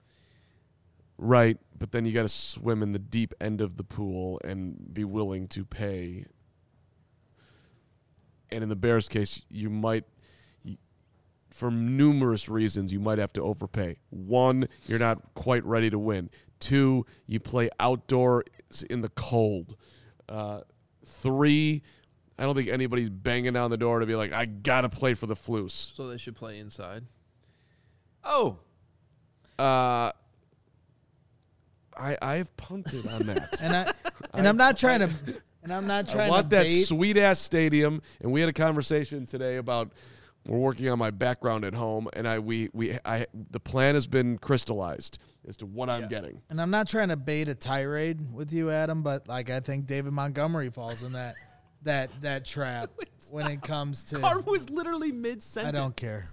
Right, but then you got to swim in the deep end of the pool and be willing to pay. And in the Bears' case, you might, for numerous reasons, you might have to overpay. 1, you're not quite ready to win. 2, you play outdoor in the cold. 3, I don't think anybody's banging down the door to be like, I got to play for the Floos. So they should play inside. Oh, I've punted on that. And I'm not trying to I want to that bait. sweet ass stadium. And we had a conversation today about we're working on my background at home, and the plan has been crystallized as to what I'm getting. And I'm not trying to bait a tirade with you, Adam, but I think David Montgomery falls in that trap when it comes to. Carm was literally mid-sentence. I don't care.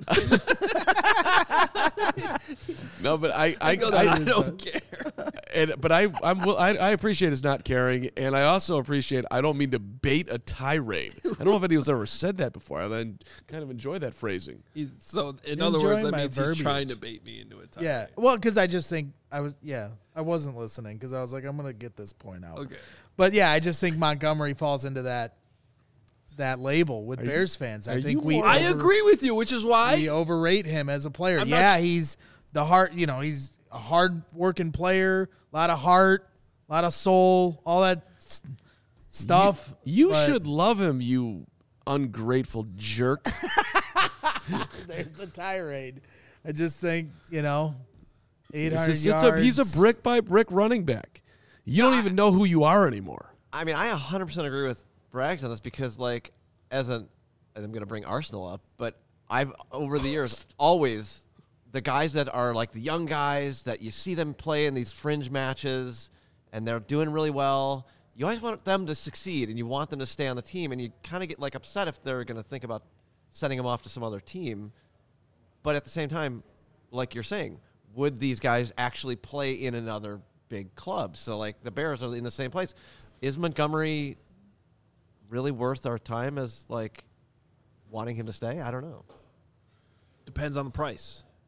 No, but I don't care. But I appreciate his not caring, and I also appreciate I don't mean to bait a tirade. I don't know if anyone's ever said that before. I then kind of enjoy that phrasing. So in You're other words, enjoying that my means he's verbiage. trying to bait me into a tie. Yeah, well, because I just think I wasn't listening because I was like, I'm gonna get this point out. Okay. But yeah, I just think Montgomery falls into that label with Bears fans. I are think you we more- I agree with you, which is why we overrate him as a player. I'm not- Yeah, he's the heart. You know, he's a hard working player, a lot of heart, a lot of soul, all that stuff. You but should love him, you ungrateful jerk. There's the tirade. I just think 800 He's yards. a brick by brick running back. You don't even know who you are anymore. I mean, I 100% agree with Braggs on this because, and I'm going to bring Arsenal up, but I've, over the years, always, the guys that are the young guys that you see them play in these fringe matches and they're doing really well, you always want them to succeed and you want them to stay on the team, and you kind of get upset if they're going to think about sending them off to some other team. But at the same time, like you're saying, would these guys actually play in another big club? So the Bears are in the same place. Is Montgomery really worth our time as wanting him to stay? I don't know. depends on the price.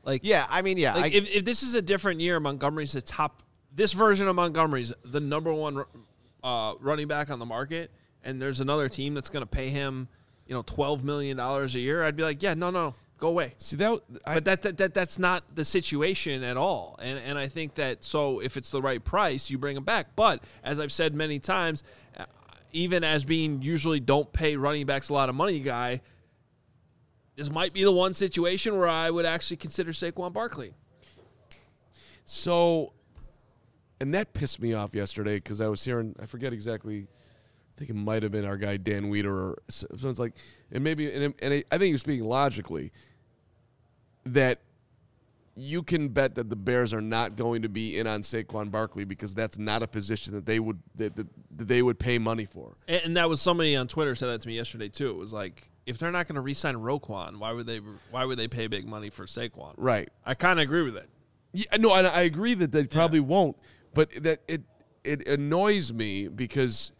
Like, Yeah, I mean, yeah. like if this is a different year, Montgomery's the top. This version of Montgomery's the number one running back on the market, and there's another team that's going to pay him, $12 million a year. I'd be like, yeah, no, go away. See But that's not the situation at all. And I think that, so if it's the right price, you bring him back. But as I've said many times, even as being usually don't pay running backs a lot of money guy, this might be the one situation where I would actually consider Saquon Barkley. So, and that pissed me off yesterday because I was hearing, I forget exactly, I think it might have been our guy Dan Weeder or someone's like, and maybe, and I think he was speaking logically, that you can bet that the Bears are not going to be in on Saquon Barkley because that's not a position that they would pay money for. And that was somebody on Twitter said that to me yesterday too. It was like, if they're not going to re-sign Roquan, why would they pay big money for Saquon? Right. I kind of agree with it. Yeah, no, and I agree that they probably won't, but that it annoys me because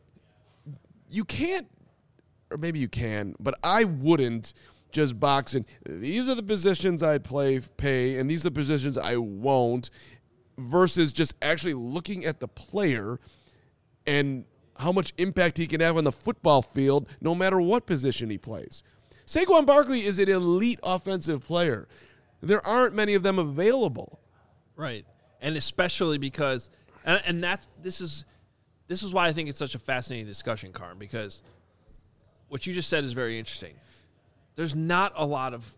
you can't, or maybe you can, but I wouldn't just box in. These are the positions I'd pay, and these are the positions I won't, versus just actually looking at the player and how much impact he can have on the football field no matter what position he plays. Saquon Barkley is an elite offensive player. There aren't many of them available. Right. And especially because and this is why I think it's such a fascinating discussion, Carm, because what you just said is very interesting. There's not a lot of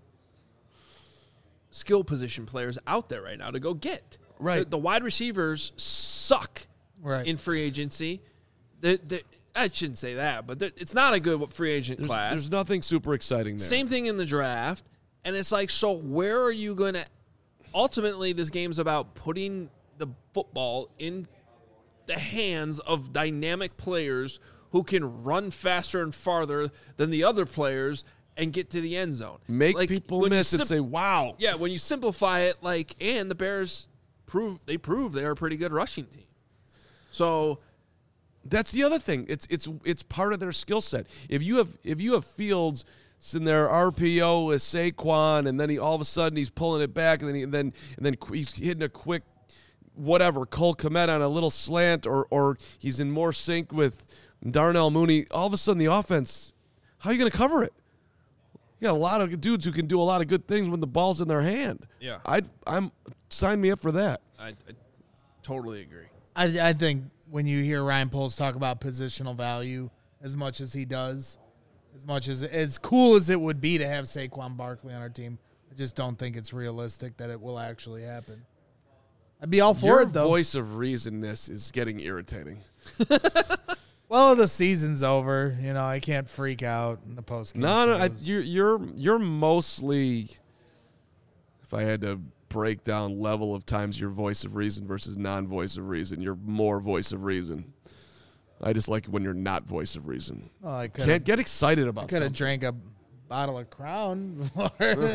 skill position players out there right now to go get. Right. The wide receivers suck in free agency. I shouldn't say that, but it's not a good free agent class. There's nothing super exciting there. Same thing in the draft. And it's like, so where are you going to – ultimately, this game's about putting the football in the hands of dynamic players who can run faster and farther than the other players and get to the end zone. Make people miss and say, wow. Yeah, when you simplify it, and the Bears prove they're a pretty good rushing team. So – that's the other thing. It's part of their skill set. If you have Fields in their RPO with Saquon, and then all of a sudden he's pulling it back, and then he's hitting a quick whatever Cole Kmet on a little slant, or he's in more sync with Darnell Mooney. All of a sudden the offense, how are you going to cover it? You got a lot of dudes who can do a lot of good things when the ball's in their hand. Yeah, I'm sign me up for that. I totally agree. I think when you hear Ryan Poles talk about positional value as much as he does, as cool as it would be to have Saquon Barkley on our team, I just don't think it's realistic that it will actually happen. I'd be all for it, though. Your voice of reasonness is getting irritating. Well, the season's over. I can't freak out in the postgame. No, you're mostly, if I had to break down level of times your voice of reason versus non-voice of reason, you're more voice of reason. I just like it when you're not voice of reason. Oh, I can't get excited about something. Could have drank a bottle of Crown before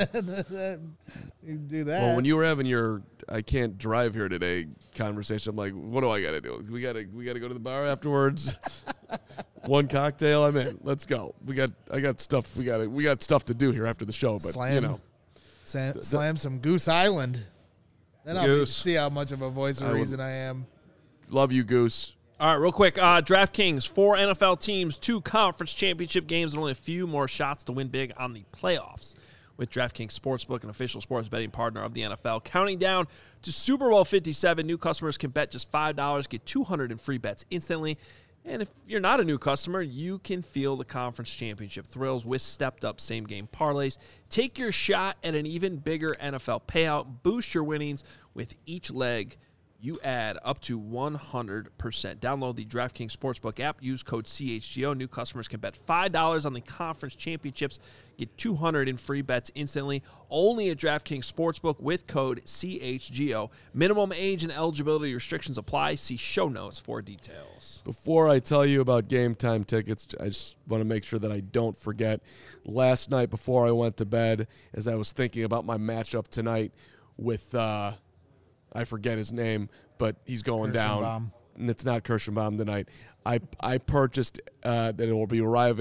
you do that. Well, when you were having your I can't drive here today conversation, I'm like, what do I got to do? We got to go to the bar afterwards. One cocktail, I'm in. Let's go. I got stuff. We got stuff to do here after the show, but slam some Goose Island. Then I'll see how much of a voice of reason I am. Love you, Goose. All right, real quick. DraftKings, 4 NFL teams, 2 conference championship games, and only a few more shots to win big on the playoffs. With DraftKings Sportsbook, an official sports betting partner of the NFL. Counting down to Super Bowl 57, new customers can bet just $5, get $200 in free bets instantly. And if you're not a new customer, you can feel the conference championship thrills with stepped-up same-game parlays. Take your shot at an even bigger NFL payout. Boost your winnings with each leg. You add up to 100%. Download the DraftKings Sportsbook app. Use code CHGO. New customers can bet $5 on the conference championships. Get $200 in free bets instantly. Only at DraftKings Sportsbook with code CHGO. Minimum age and eligibility restrictions apply. See show notes for details. Before I tell you about Game Time tickets, I just want to make sure that I don't forget. Last night before I went to bed, as I was thinking about my matchup tonight with I forget his name, but he's going down. And it's not Kirschenbaum tonight. I purchased that it will be arriving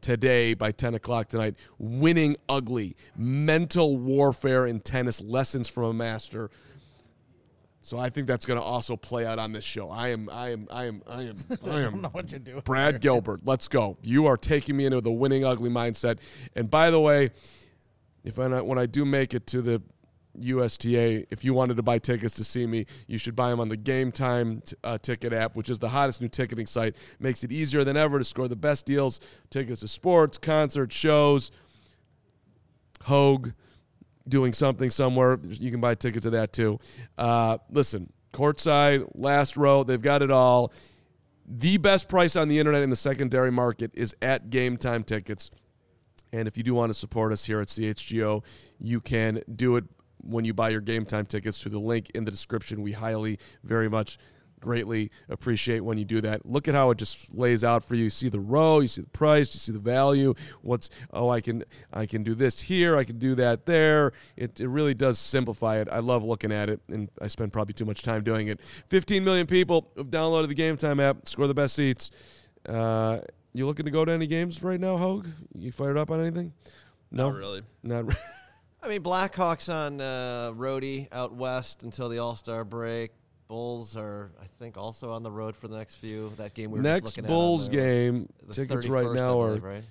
today by 10 o'clock tonight. Winning Ugly, mental warfare in tennis, lessons from a master. So I think that's going to also play out on this show. I am I don't know what you're doing. Brad Gilbert. Let's go. You are taking me into the Winning Ugly mindset. And by the way, when I do make it to the USTA, if you wanted to buy tickets to see me, you should buy them on the Game Time ticket app, which is the hottest new ticketing site. Makes it easier than ever to score the best deals. Tickets to sports, concerts, shows, Hogue, doing something somewhere. You can buy tickets to that too. Listen, courtside, last row, they've got it all. The best price on the internet in the secondary market is at Game Time Tickets. And if you do want to support us here at CHGO, you can do it when you buy your Game Time tickets through the link in the description. We highly, very much, greatly appreciate when you do that. Look at how it just lays out for you. You see the row, you see the price, you see the value. I can do this here, I can do that there. It really does simplify it. I love looking at it, and I spend probably too much time doing it. 15 million people have downloaded the Game Time app. Score the best seats. You looking to go to any games right now, Hogue? You fired up on anything? No, Not really. Not really. I mean, Blackhawks on roadie out west until the All-Star break. Bulls are, I think, also on the road for the next few. That game we were Next just looking Bulls at. game, tickets right 31st, now I are believe, right?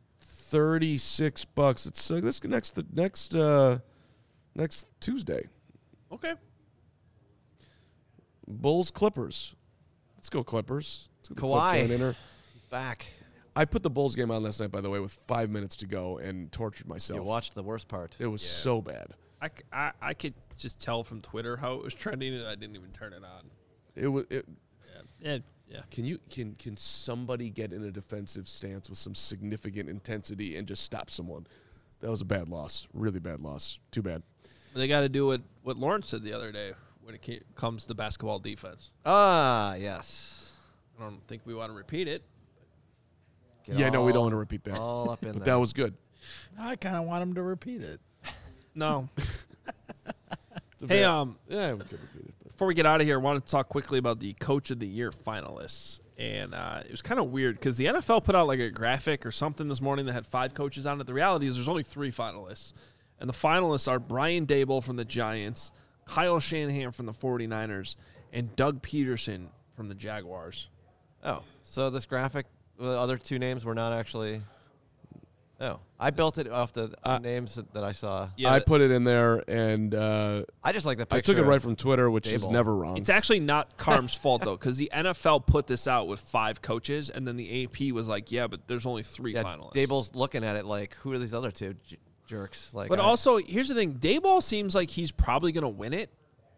$36. It's this next Tuesday. Okay. Bulls Clippers. Let's go Clippers. Let's get the Kawhi. Clip train in her. He's back. I put the Bulls game on last night, by the way, with 5 minutes to go and tortured myself. You watched the worst part. It was so bad. I could just tell from Twitter how it was trending, and I didn't even turn it on. It was. Yeah. Can somebody get in a defensive stance with some significant intensity and just stop someone? That was a bad loss. Really bad loss. Too bad. They got to do what Lawrence said the other day when it comes to basketball defense. Ah, yes. I don't think we want to repeat it. We don't want to repeat that. All up in But there. that was good. I kind of want him to repeat it. No. It's a Hey, bad- yeah, we could repeat it. But. Before we get out of here, I wanted to talk quickly about the Coach of the Year finalists. And it was kind of weird because the NFL put out like a graphic or something this morning that had 5 coaches on it. The reality is there's only 3 finalists. And the finalists are Brian Daboll from the Giants, Kyle Shanahan from the 49ers, and Doug Peterson from the Jaguars. Oh, so this graphic, the other 2 names were not actually. Oh, I built it off the names that I saw. Yeah, I put it in there, and I just like the picture. I took it right from Twitter, which is Daboll. never wrong. It's actually not Carm's fault, though, because the NFL put this out with 5 coaches, and then the AP was like, yeah, but there's only 3 finalists. Daboll's looking at it like, who are these other 2 jerks? Like, But also, here's the thing. Daboll seems like he's probably going to win it.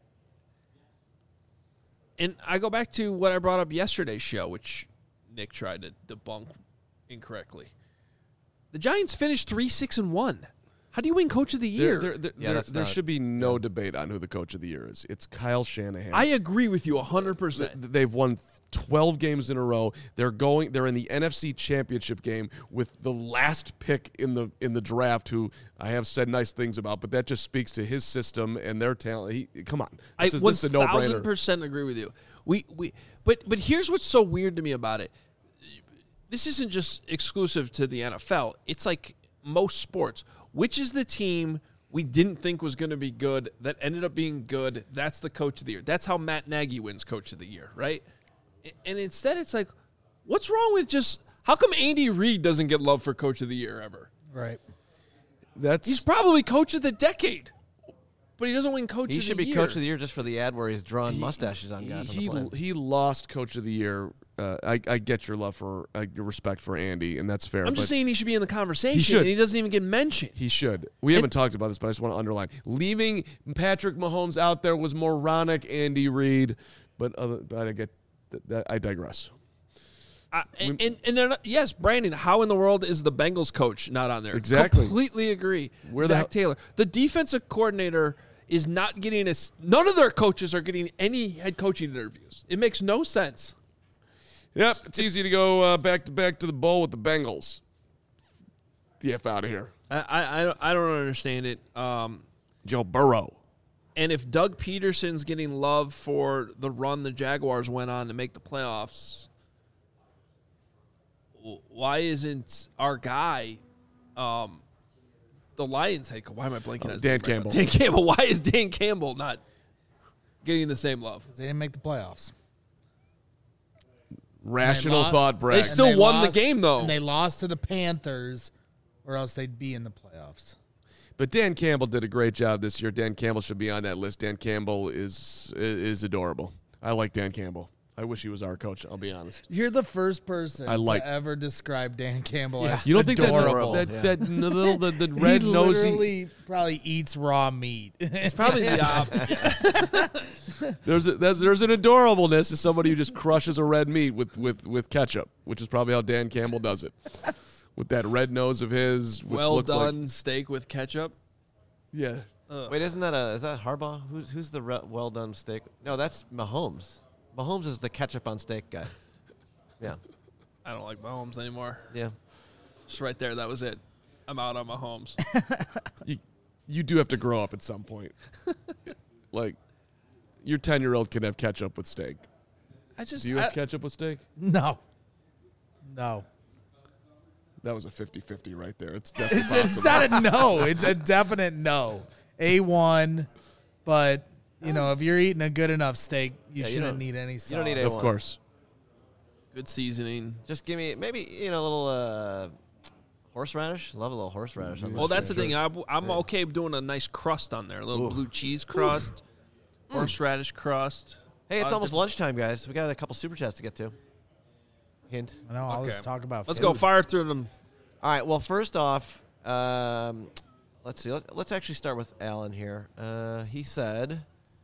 And I go back to what I brought up yesterday's show, which Nick tried to debunk incorrectly. The Giants finished 3-6-1. How do you win Coach of the Year? There should be no debate on who the Coach of the Year is. It's Kyle Shanahan. I agree with you 100%. They've won 12 games in a row. They're in the NFC Championship game with the last pick in the draft, who I have said nice things about, but that just speaks to his system and their talent. Come on. This is a no-brainer. 1,000% agree with you. But here's what's so weird to me about it. This isn't just exclusive to the NFL. It's like most sports. Which is the team we didn't think was going to be good that ended up being good? That's the Coach of the Year. That's how Matt Nagy wins Coach of the Year, right? And instead, it's like, what's wrong with just how come Andy Reid doesn't get love for Coach of the Year ever? Right. He's probably Coach of the Decade, but he doesn't win Coach of the Year. He should be Coach of the Year just for the ad where he's drawing mustaches on guys. He lost Coach of the Year. I get your love for your respect for Andy, and that's fair. I'm just saying he should be in the conversation, He should. and he doesn't even get mentioned. He should. We haven't talked about this, but I just want to underline. Leaving Patrick Mahomes out there was moronic, Andy Reid, but I digress. And they're not, yes, Brandon, how in the world is the Bengals coach not on there? Exactly. Completely agree. Where Zach Taylor. The defensive coordinator is not getting none of their coaches are getting any head coaching interviews. It makes no sense. Yep, it's easy to go back to the bowl with the Bengals. The F out of here. I don't understand it. Joe Burrow. And if Doug Peterson's getting love for the run the Jaguars went on to make the playoffs, why isn't our guy, the Lions head coach? Why am I blanking on his Dan name right now? Campbell. Dan Campbell. Why is Dan Campbell not getting the same love? They didn't make the playoffs. Rational lost- thought, Brad. They still And won the game, though. And they lost to the Panthers, or else they'd be in the playoffs. But Dan Campbell did a great job this year. Dan Campbell should be on that list. Dan Campbell is adorable. I like Dan Campbell. I wish he was our coach, I'll be honest. You're the first person to ever describe Dan Campbell as You don't think adorable. that little the red he nosy literally probably eats raw meat. It's probably the opposite. there's an adorableness to somebody who just crushes a red meat with ketchup, which is probably how Dan Campbell does it. With that red nose of his, which Well looks done steak with ketchup. yeah. Wait, is that Harbaugh? Who's the well done steak? No, that's Mahomes. Mahomes is the ketchup on steak guy. Yeah. I don't like Mahomes anymore. Yeah. Just right there. That was it. I'm out on Mahomes. You do have to grow up at some point. Like, your 10-year-old can have ketchup with steak. Do you have ketchup with steak? No. That was a 50-50 right there. It's definitely It's not a no. It's a definite no. A1, but if you're eating a good enough steak, you shouldn't need any sauce. You don't need Of A1. course. Good seasoning. Just give me maybe a little horseradish. Love a little horseradish. On Well, this that's the thing. thing. I'm okay doing a nice crust on there. A little blue cheese crust, horseradish crust. Hey, it's almost different- lunchtime, guys. We got a couple super chats to get to. Hint. I know all this Okay. talk about Let's food. go fire through them. All right. Well, first off, let's see. Let's actually start with Alan here. He said,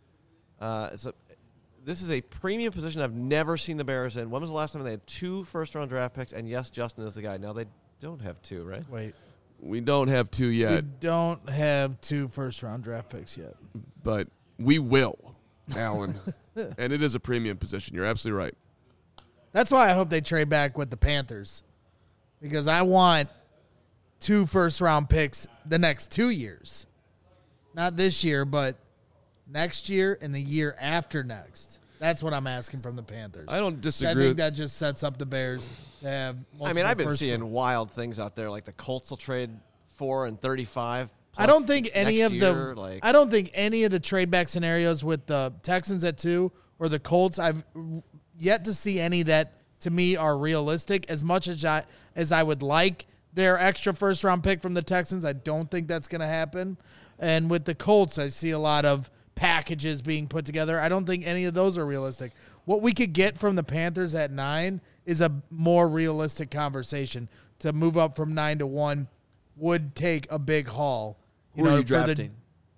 this is a premium position I've never seen the Bears in. When was the last time they had 2 first-round draft picks? And yes, Justin is the guy. Now they don't have 2, right? Wait. We don't have 2 We yet, don't have 2 first-round draft picks yet. but we will, Alan. And it is a premium position. You're absolutely right. That's why I hope they trade back with the Panthers, because I want 2 first-round picks the next 2 years. Not this year, but next year and the year after next. That's what I'm asking from the Panthers. I don't I disagree. think that just sets up the Bears to have I mean, I've been multiple seeing wild things out there, like the Colts will trade 4 and 35. I don't think any next of year, the I don't think any of the trade back scenarios with the Texans at 2 or the Colts, I've yet to see any that to me are realistic. As much as I would like their extra first round pick from the Texans, I don't think that's going to happen. And with the Colts, I see a lot of packages being put together. I don't think any of those are realistic. What we could get from the Panthers at 9 is a more realistic conversation. To move up from 9 to 1 would take a big haul. Who are you for the- drafting?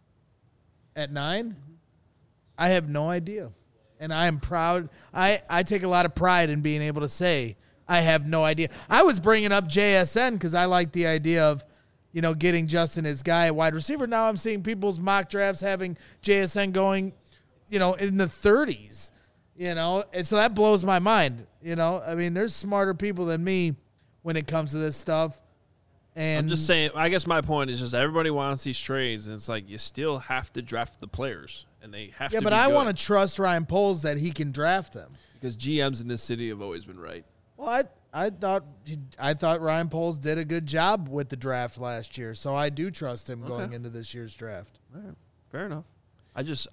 at 9? I have no idea. And I am proud. I take a lot of pride in being able to say I have no idea. I was bringing up JSN because I like the idea of, getting Justin his guy at wide receiver. Now I'm seeing people's mock drafts having JSN going, in the 30s, And so that blows my mind, I mean, there's smarter people than me when it comes to this stuff. And I'm just saying, I guess my point is just everybody wants these trades, and it's like you still have to draft the players, and they have to yeah, be but I good, want to trust Ryan Poles that he can draft them. because GMs in this city have always been right. Well, I thought Ryan Poles did a good job with the draft last year, so I do trust him going into this year's draft. All right, fair enough. I just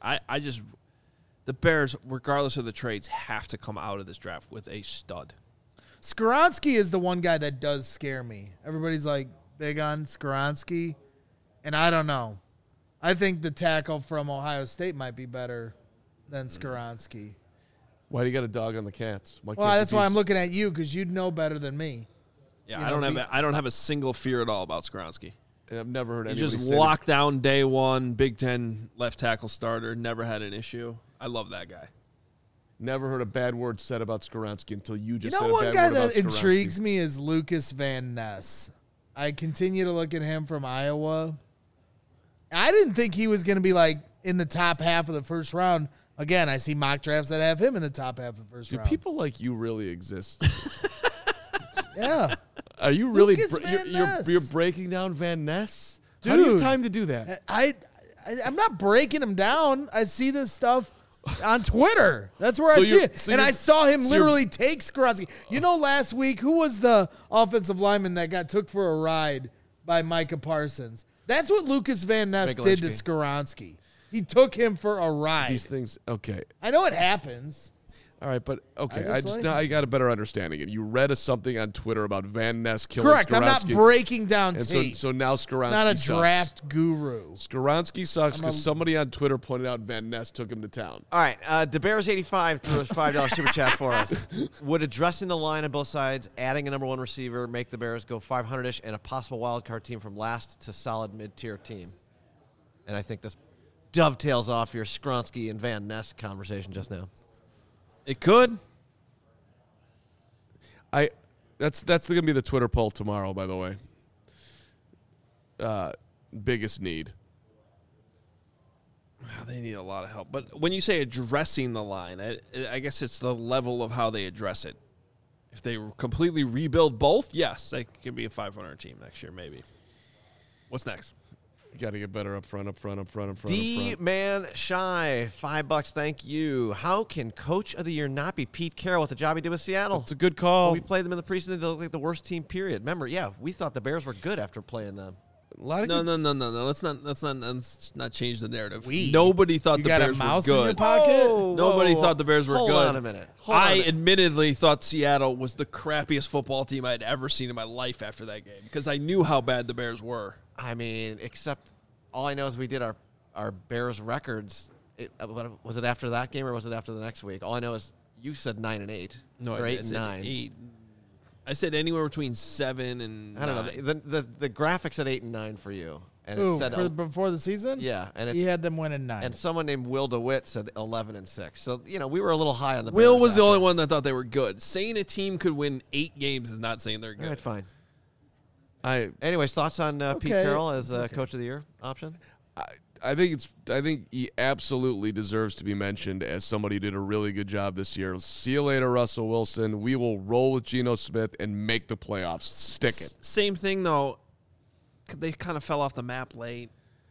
the Bears, regardless of the trades, have to come out of this draft with a stud. Skoronski is the one guy that does scare me. Everybody's like big on Skoronski, and I don't know. I think the tackle from Ohio State might be better than Skoronski. Why do you got a dog on the Cats? Well, that's why I'm looking at you, because you'd know better than me. Yeah, I don't have a single fear at all about Skoronski. I've never heard He anybody just say locked down day one, Big Ten left tackle starter, never had an issue. I love that guy. Never heard a bad word said about Skoronski until you just said One a bad guy word about that intrigues Skoronski. me is Lucas Van Ness. I continue to look at him from Iowa. I didn't think he was going to be in the top half of the first round. Again, I see mock drafts that have him in the top half of the first Do round. people like you really exist? Yeah. Are you really? Lucas Van Ness. You're breaking down Van Ness? How do you have Dude. time to do that? I'm not breaking him down. I see this stuff On Twitter. That's where So I see you're- it. so And you're- I saw him so you're- literally take Skoronski. You know, last week, who was the offensive lineman that got took for a ride by Micah Parsons? That's what Lucas Van Ness did to Mikulicki. Skoronski. He took him for a ride. These things, okay. I know it happens. All right, but okay, I just like now it. I got a better understanding. And you read something on Twitter about Van Ness killing Correct. I'm not Skoronski. breaking down And tape. so now Skoronski not a sucks. draft guru. Skoronski sucks because somebody on Twitter pointed out Van Ness took him to town. All right, DeBears85 threw a $5 super chat for us. Would addressing the line on both sides, adding a number one receiver, make the Bears go 500-ish and a possible wild card team from last to solid mid-tier team? And I think this dovetails off your Skoronski and Van Ness conversation just now. It could. That's gonna be the Twitter poll tomorrow, by the way. Biggest need. They need a lot of help. But when you say addressing the line, I guess it's the level of how they address it. If they completely rebuild both, yes, they could be a 500 team next year, maybe. What's next? You got to get better up front. D-Man Shy, $5, thank you. How can Coach of the Year not be Pete Carroll with the job he did with Seattle? It's a good call. When we played them in the preseason, they looked like the worst team, period. Remember, we thought the Bears were good after playing them. A lot of No. Let's not change the narrative. Nobody thought You the got a Bears mouse were in your good. pocket? Nobody thought the Bears were Hold good. on a minute. Hold on a I minute. admittedly thought Seattle was the crappiest football team I'd ever seen in my life after that game because I knew how bad the Bears were. I mean, except all I know is we did our Bears records. Was it after that game or was it after the next week? All I know is you said 9-8. No, or I 8 and said 9. 8. I said anywhere between 7 and I don't 9. know. The graphic said 8 and 9 for you, and Ooh, it said before the season? yeah, and it's He had them winning 9. and someone named Will DeWitt said 11 and 6. So we were a little high on the. Will Bears was the after. only one that thought they were good. Saying a team could win 8 games is not saying they're All good. right, fine. Anyways, Thoughts on Pete Okay. Carroll as Coach of the Year option? I think he absolutely deserves to be mentioned as somebody who did a really good job this year. See you later, Russell Wilson. We will roll with Geno Smith and make the playoffs. Stick it. Same thing, though. They kind of fell off the map late.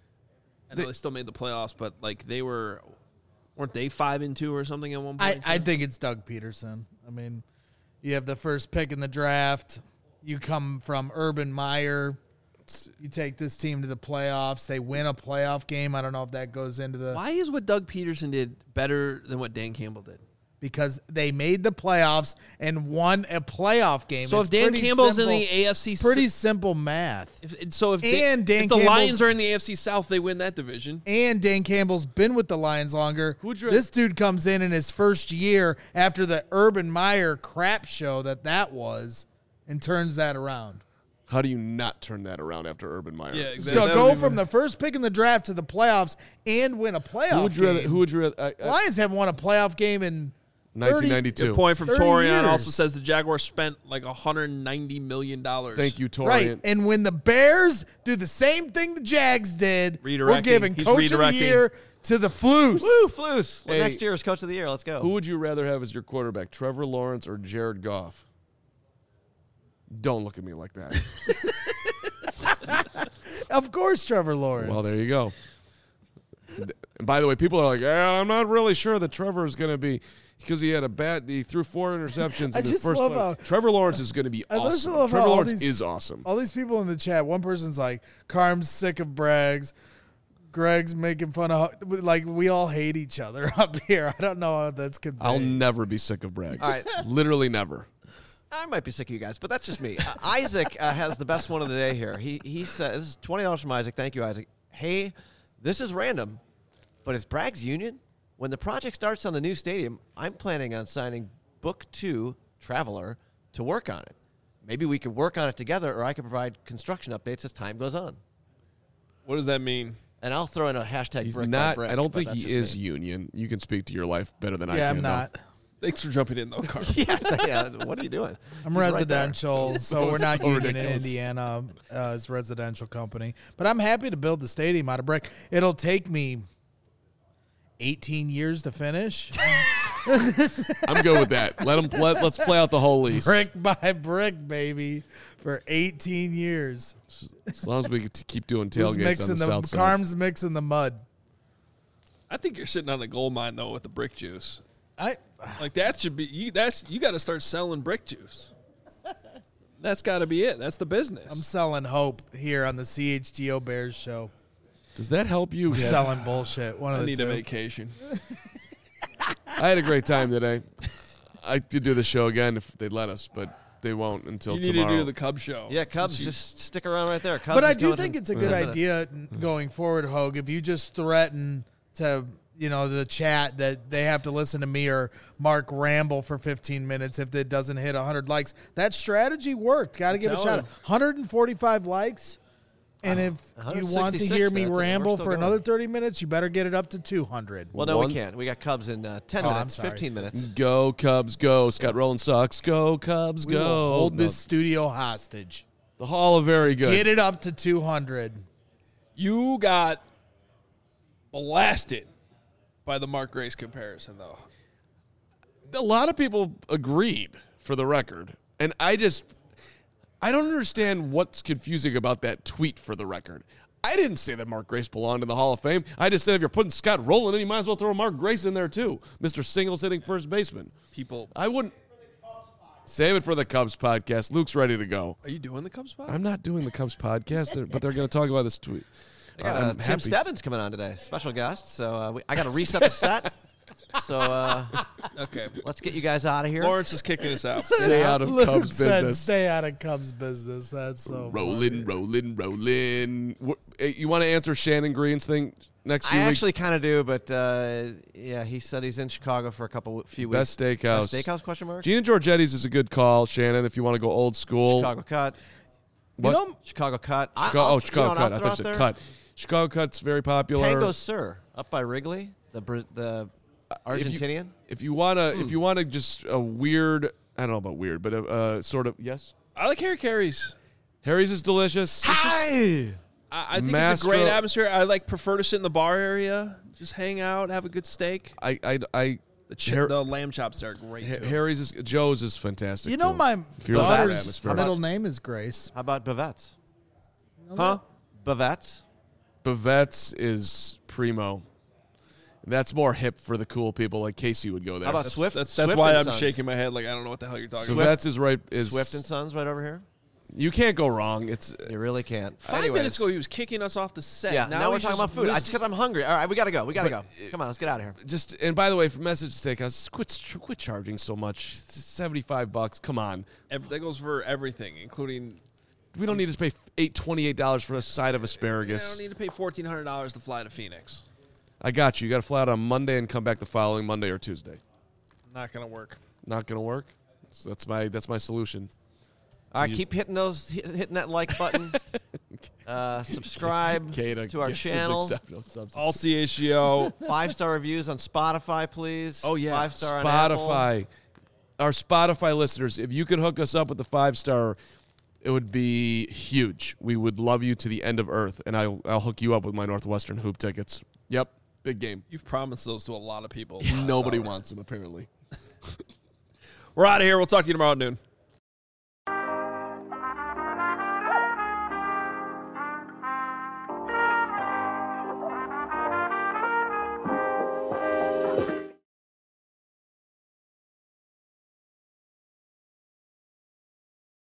I know they still made the playoffs, but like weren't they 5-2 or something at one point? I think it's Doug Peterson. I mean, you have the first pick in the draft. You come from Urban Meyer. You take this team to the playoffs. They win a playoff game. I don't know if that goes into the Why is what Doug Peterson did better than what Dan Campbell did? because they made the playoffs and won a playoff game. So It's if Dan pretty Campbell's simple- in the AFC, it's pretty simple math. if And the Dan Lions Campbell's- are in the AFC South, they win that division. And Dan Campbell's been with the Lions longer. Who'd you- This dude comes in his first year after the Urban Meyer crap show that was and turns that around. How do you not turn that around after Urban Meyer? Yeah, So exactly. go from the first pick in the draft to the playoffs and win a playoff game. Who would you rather? Lions haven't won a playoff game in 1992. Good point from 30 Torian. years. Also says the Jaguars spent like $190 million. Thank you, Torian. Right. And when the Bears do the same thing the Jags did, we're Redirecting. giving He's Coach of the redirecting. Year to the Floos. Woo, Floos. Hey. Next year is Coach of the Year. Let's go. Who would you rather have as your quarterback, Trevor Lawrence or Jared Goff? Don't look at me like that. Of course, Trevor Lawrence. Well, there you go. And by the way, people are like, I'm not really sure that Trevor is going to be because he threw 4 interceptions I in his just first love play. how- Trevor Lawrence is going to be I just awesome. love how Trevor all Lawrence these- is awesome. All these people in the chat, one person's like, Carm's sick of Braggs. Greg's making fun of, like, we all hate each other up here. I don't know how that's conveyed. I'll never be sick of Bragg. All right. Literally never. I might be sick of you guys, but that's just me. Isaac has the best one of the day here. He said, this is $20 from Isaac. Thank you, Isaac. Hey, this is random, but is Bragg's Union? When the project starts on the new stadium, I'm planning on signing Book 2 Traveler to work on it. Maybe we could work on it together, or I could provide construction updates as time goes on. What does that mean? And I'll throw in a hashtag He's brick by not. brick, I don't but think that's he just is me. union. You can speak to your life better than I can. Yeah, I'm though. not. Thanks for jumping in, though, Carl. yeah, what are you doing? I'm He's right there. residential, so we're not so union in ridiculous. Indiana. It's a residential company. But I'm happy to build the stadium out of brick. It'll take me 18 years to finish. I'm good with that. Let's play out the whole lease. Brick by brick, baby, for 18 years. As long as we get to keep doing Who's tailgates on the south side. Carm's mixing the mud. I think you're sitting on a gold mine though with the brick juice. I That should be you got to start selling brick juice. That's got to be it. That's the business. I'm selling hope here on the CHGO Bears show. Does that help you? We're selling bullshit. One of I the need two. a vacation. I had a great time today. I could do the show again if they'd let us, but they won't until You need tomorrow. to do the Cubs show. Yeah, Cubs, just stick around right there. Cubs But I is do going think in it's a good 10 minutes. idea going forward, Hogue, if you just threaten to, the chat that they have to listen to me or Mark ramble for 15 minutes if it doesn't hit 100 likes. That strategy worked. Got to give it a telling shot. you. 145 likes. And if you want to 166, hear me that's it. We're ramble still for going. another 30 minutes, you better get it up to 200. Well, no, One- we can't. We got Cubs in 10 Oh, I'm minutes, sorry. 15 minutes. Go Cubs, go! Scott Rowland sucks. Go Cubs, We go! will hold No, this studio hostage. the Hall of Very Good. Get it up to 200. You got blasted by the Mark Grace comparison, though. A lot of people agreed, for the record, and I don't understand what's confusing about that tweet. For the record, I didn't say that Mark Grace belonged in the Hall of Fame. I just said if you're putting Scott Rowland in, you might as well throw Mark Grace in there too, Mr. Singles hitting first baseman. People, I wouldn't save it for the Cubs podcast. Luke's ready to go. are you doing the Cubs pod? I'm not doing the Cubs podcast, but they're going to talk about this tweet. I got I'm Tim happy. Stebbins coming on today, special guest. So I got to reset the set. So Okay. let's get you guys out of here. Lawrence is kicking us out. Stay out of Luke Cubs said business. stay out of Cubs business. That's so funny. Rolling. You want to answer Shannon Green's thing next few I weeks? actually kind of do, but yeah, he said he's in Chicago for a few weeks. Best Steakhouse. Best Steakhouse? Question mark. Gina Giorgetti's is a good call, Shannon, if you want to go old school. Chicago Cut. What? Chicago Cut. Chicago you know what Cut. I'll I throw thought you out said there? Cut. Chicago Cut's very popular. Tango Sir up by Wrigley, the Argentinian. If you wanna just a weird, I don't know about weird, but a sort of yes. I like Harry Carey's. Harry's is delicious. Hi. I think it's a Mastro- great atmosphere. I prefer to sit in the bar area, just hang out, have a good steak. The lamb chops there are great too. Harry's is Joe's is fantastic. You know, too. my If you're in that daughter's atmosphere. middle name is Grace. How about Bavette's? Huh? Bavette's. Bavette's is primo. That's more hip for the cool people. Like Casey would go there. How about Swift? That's Swift why and I'm Sons. shaking my head like I don't know what the hell you're talking about. Bavette's is right. Is Swift and Sons right over here. You can't go wrong. It's You really can't. 5 Anyways. minutes ago, he was kicking us off the set. Yeah, now we're he's talking just about food. It's whistling- because I'm hungry. All right, we gotta go. We gotta go. Come on, let's get out of here. just. And by the way, for Message Steakhouse, quit charging so much. It's $75. Come on. That goes for everything, including. We don't need to pay $28 for a side of I asparagus. don't need to pay $1,400 to fly to Phoenix. I got you. You got to fly out on Monday and come back the following Monday or Tuesday. Not gonna work. Not gonna work. So that's my solution. All right, keep hitting hitting that like button. Subscribe Kata to our gets his channel. acceptance substance. All CHGO. 5-star reviews on Spotify, please. Oh, yeah. 5-star on Apple. Spotify. Our Spotify listeners, if you could hook us up with the 5-star, it would be huge. We would love you to the end of earth, and I'll hook you up with my Northwestern hoop tickets. Yep, big game. You've promised those to a lot of people. Nobody wants them apparently. We're out of here. We'll talk to you tomorrow at noon.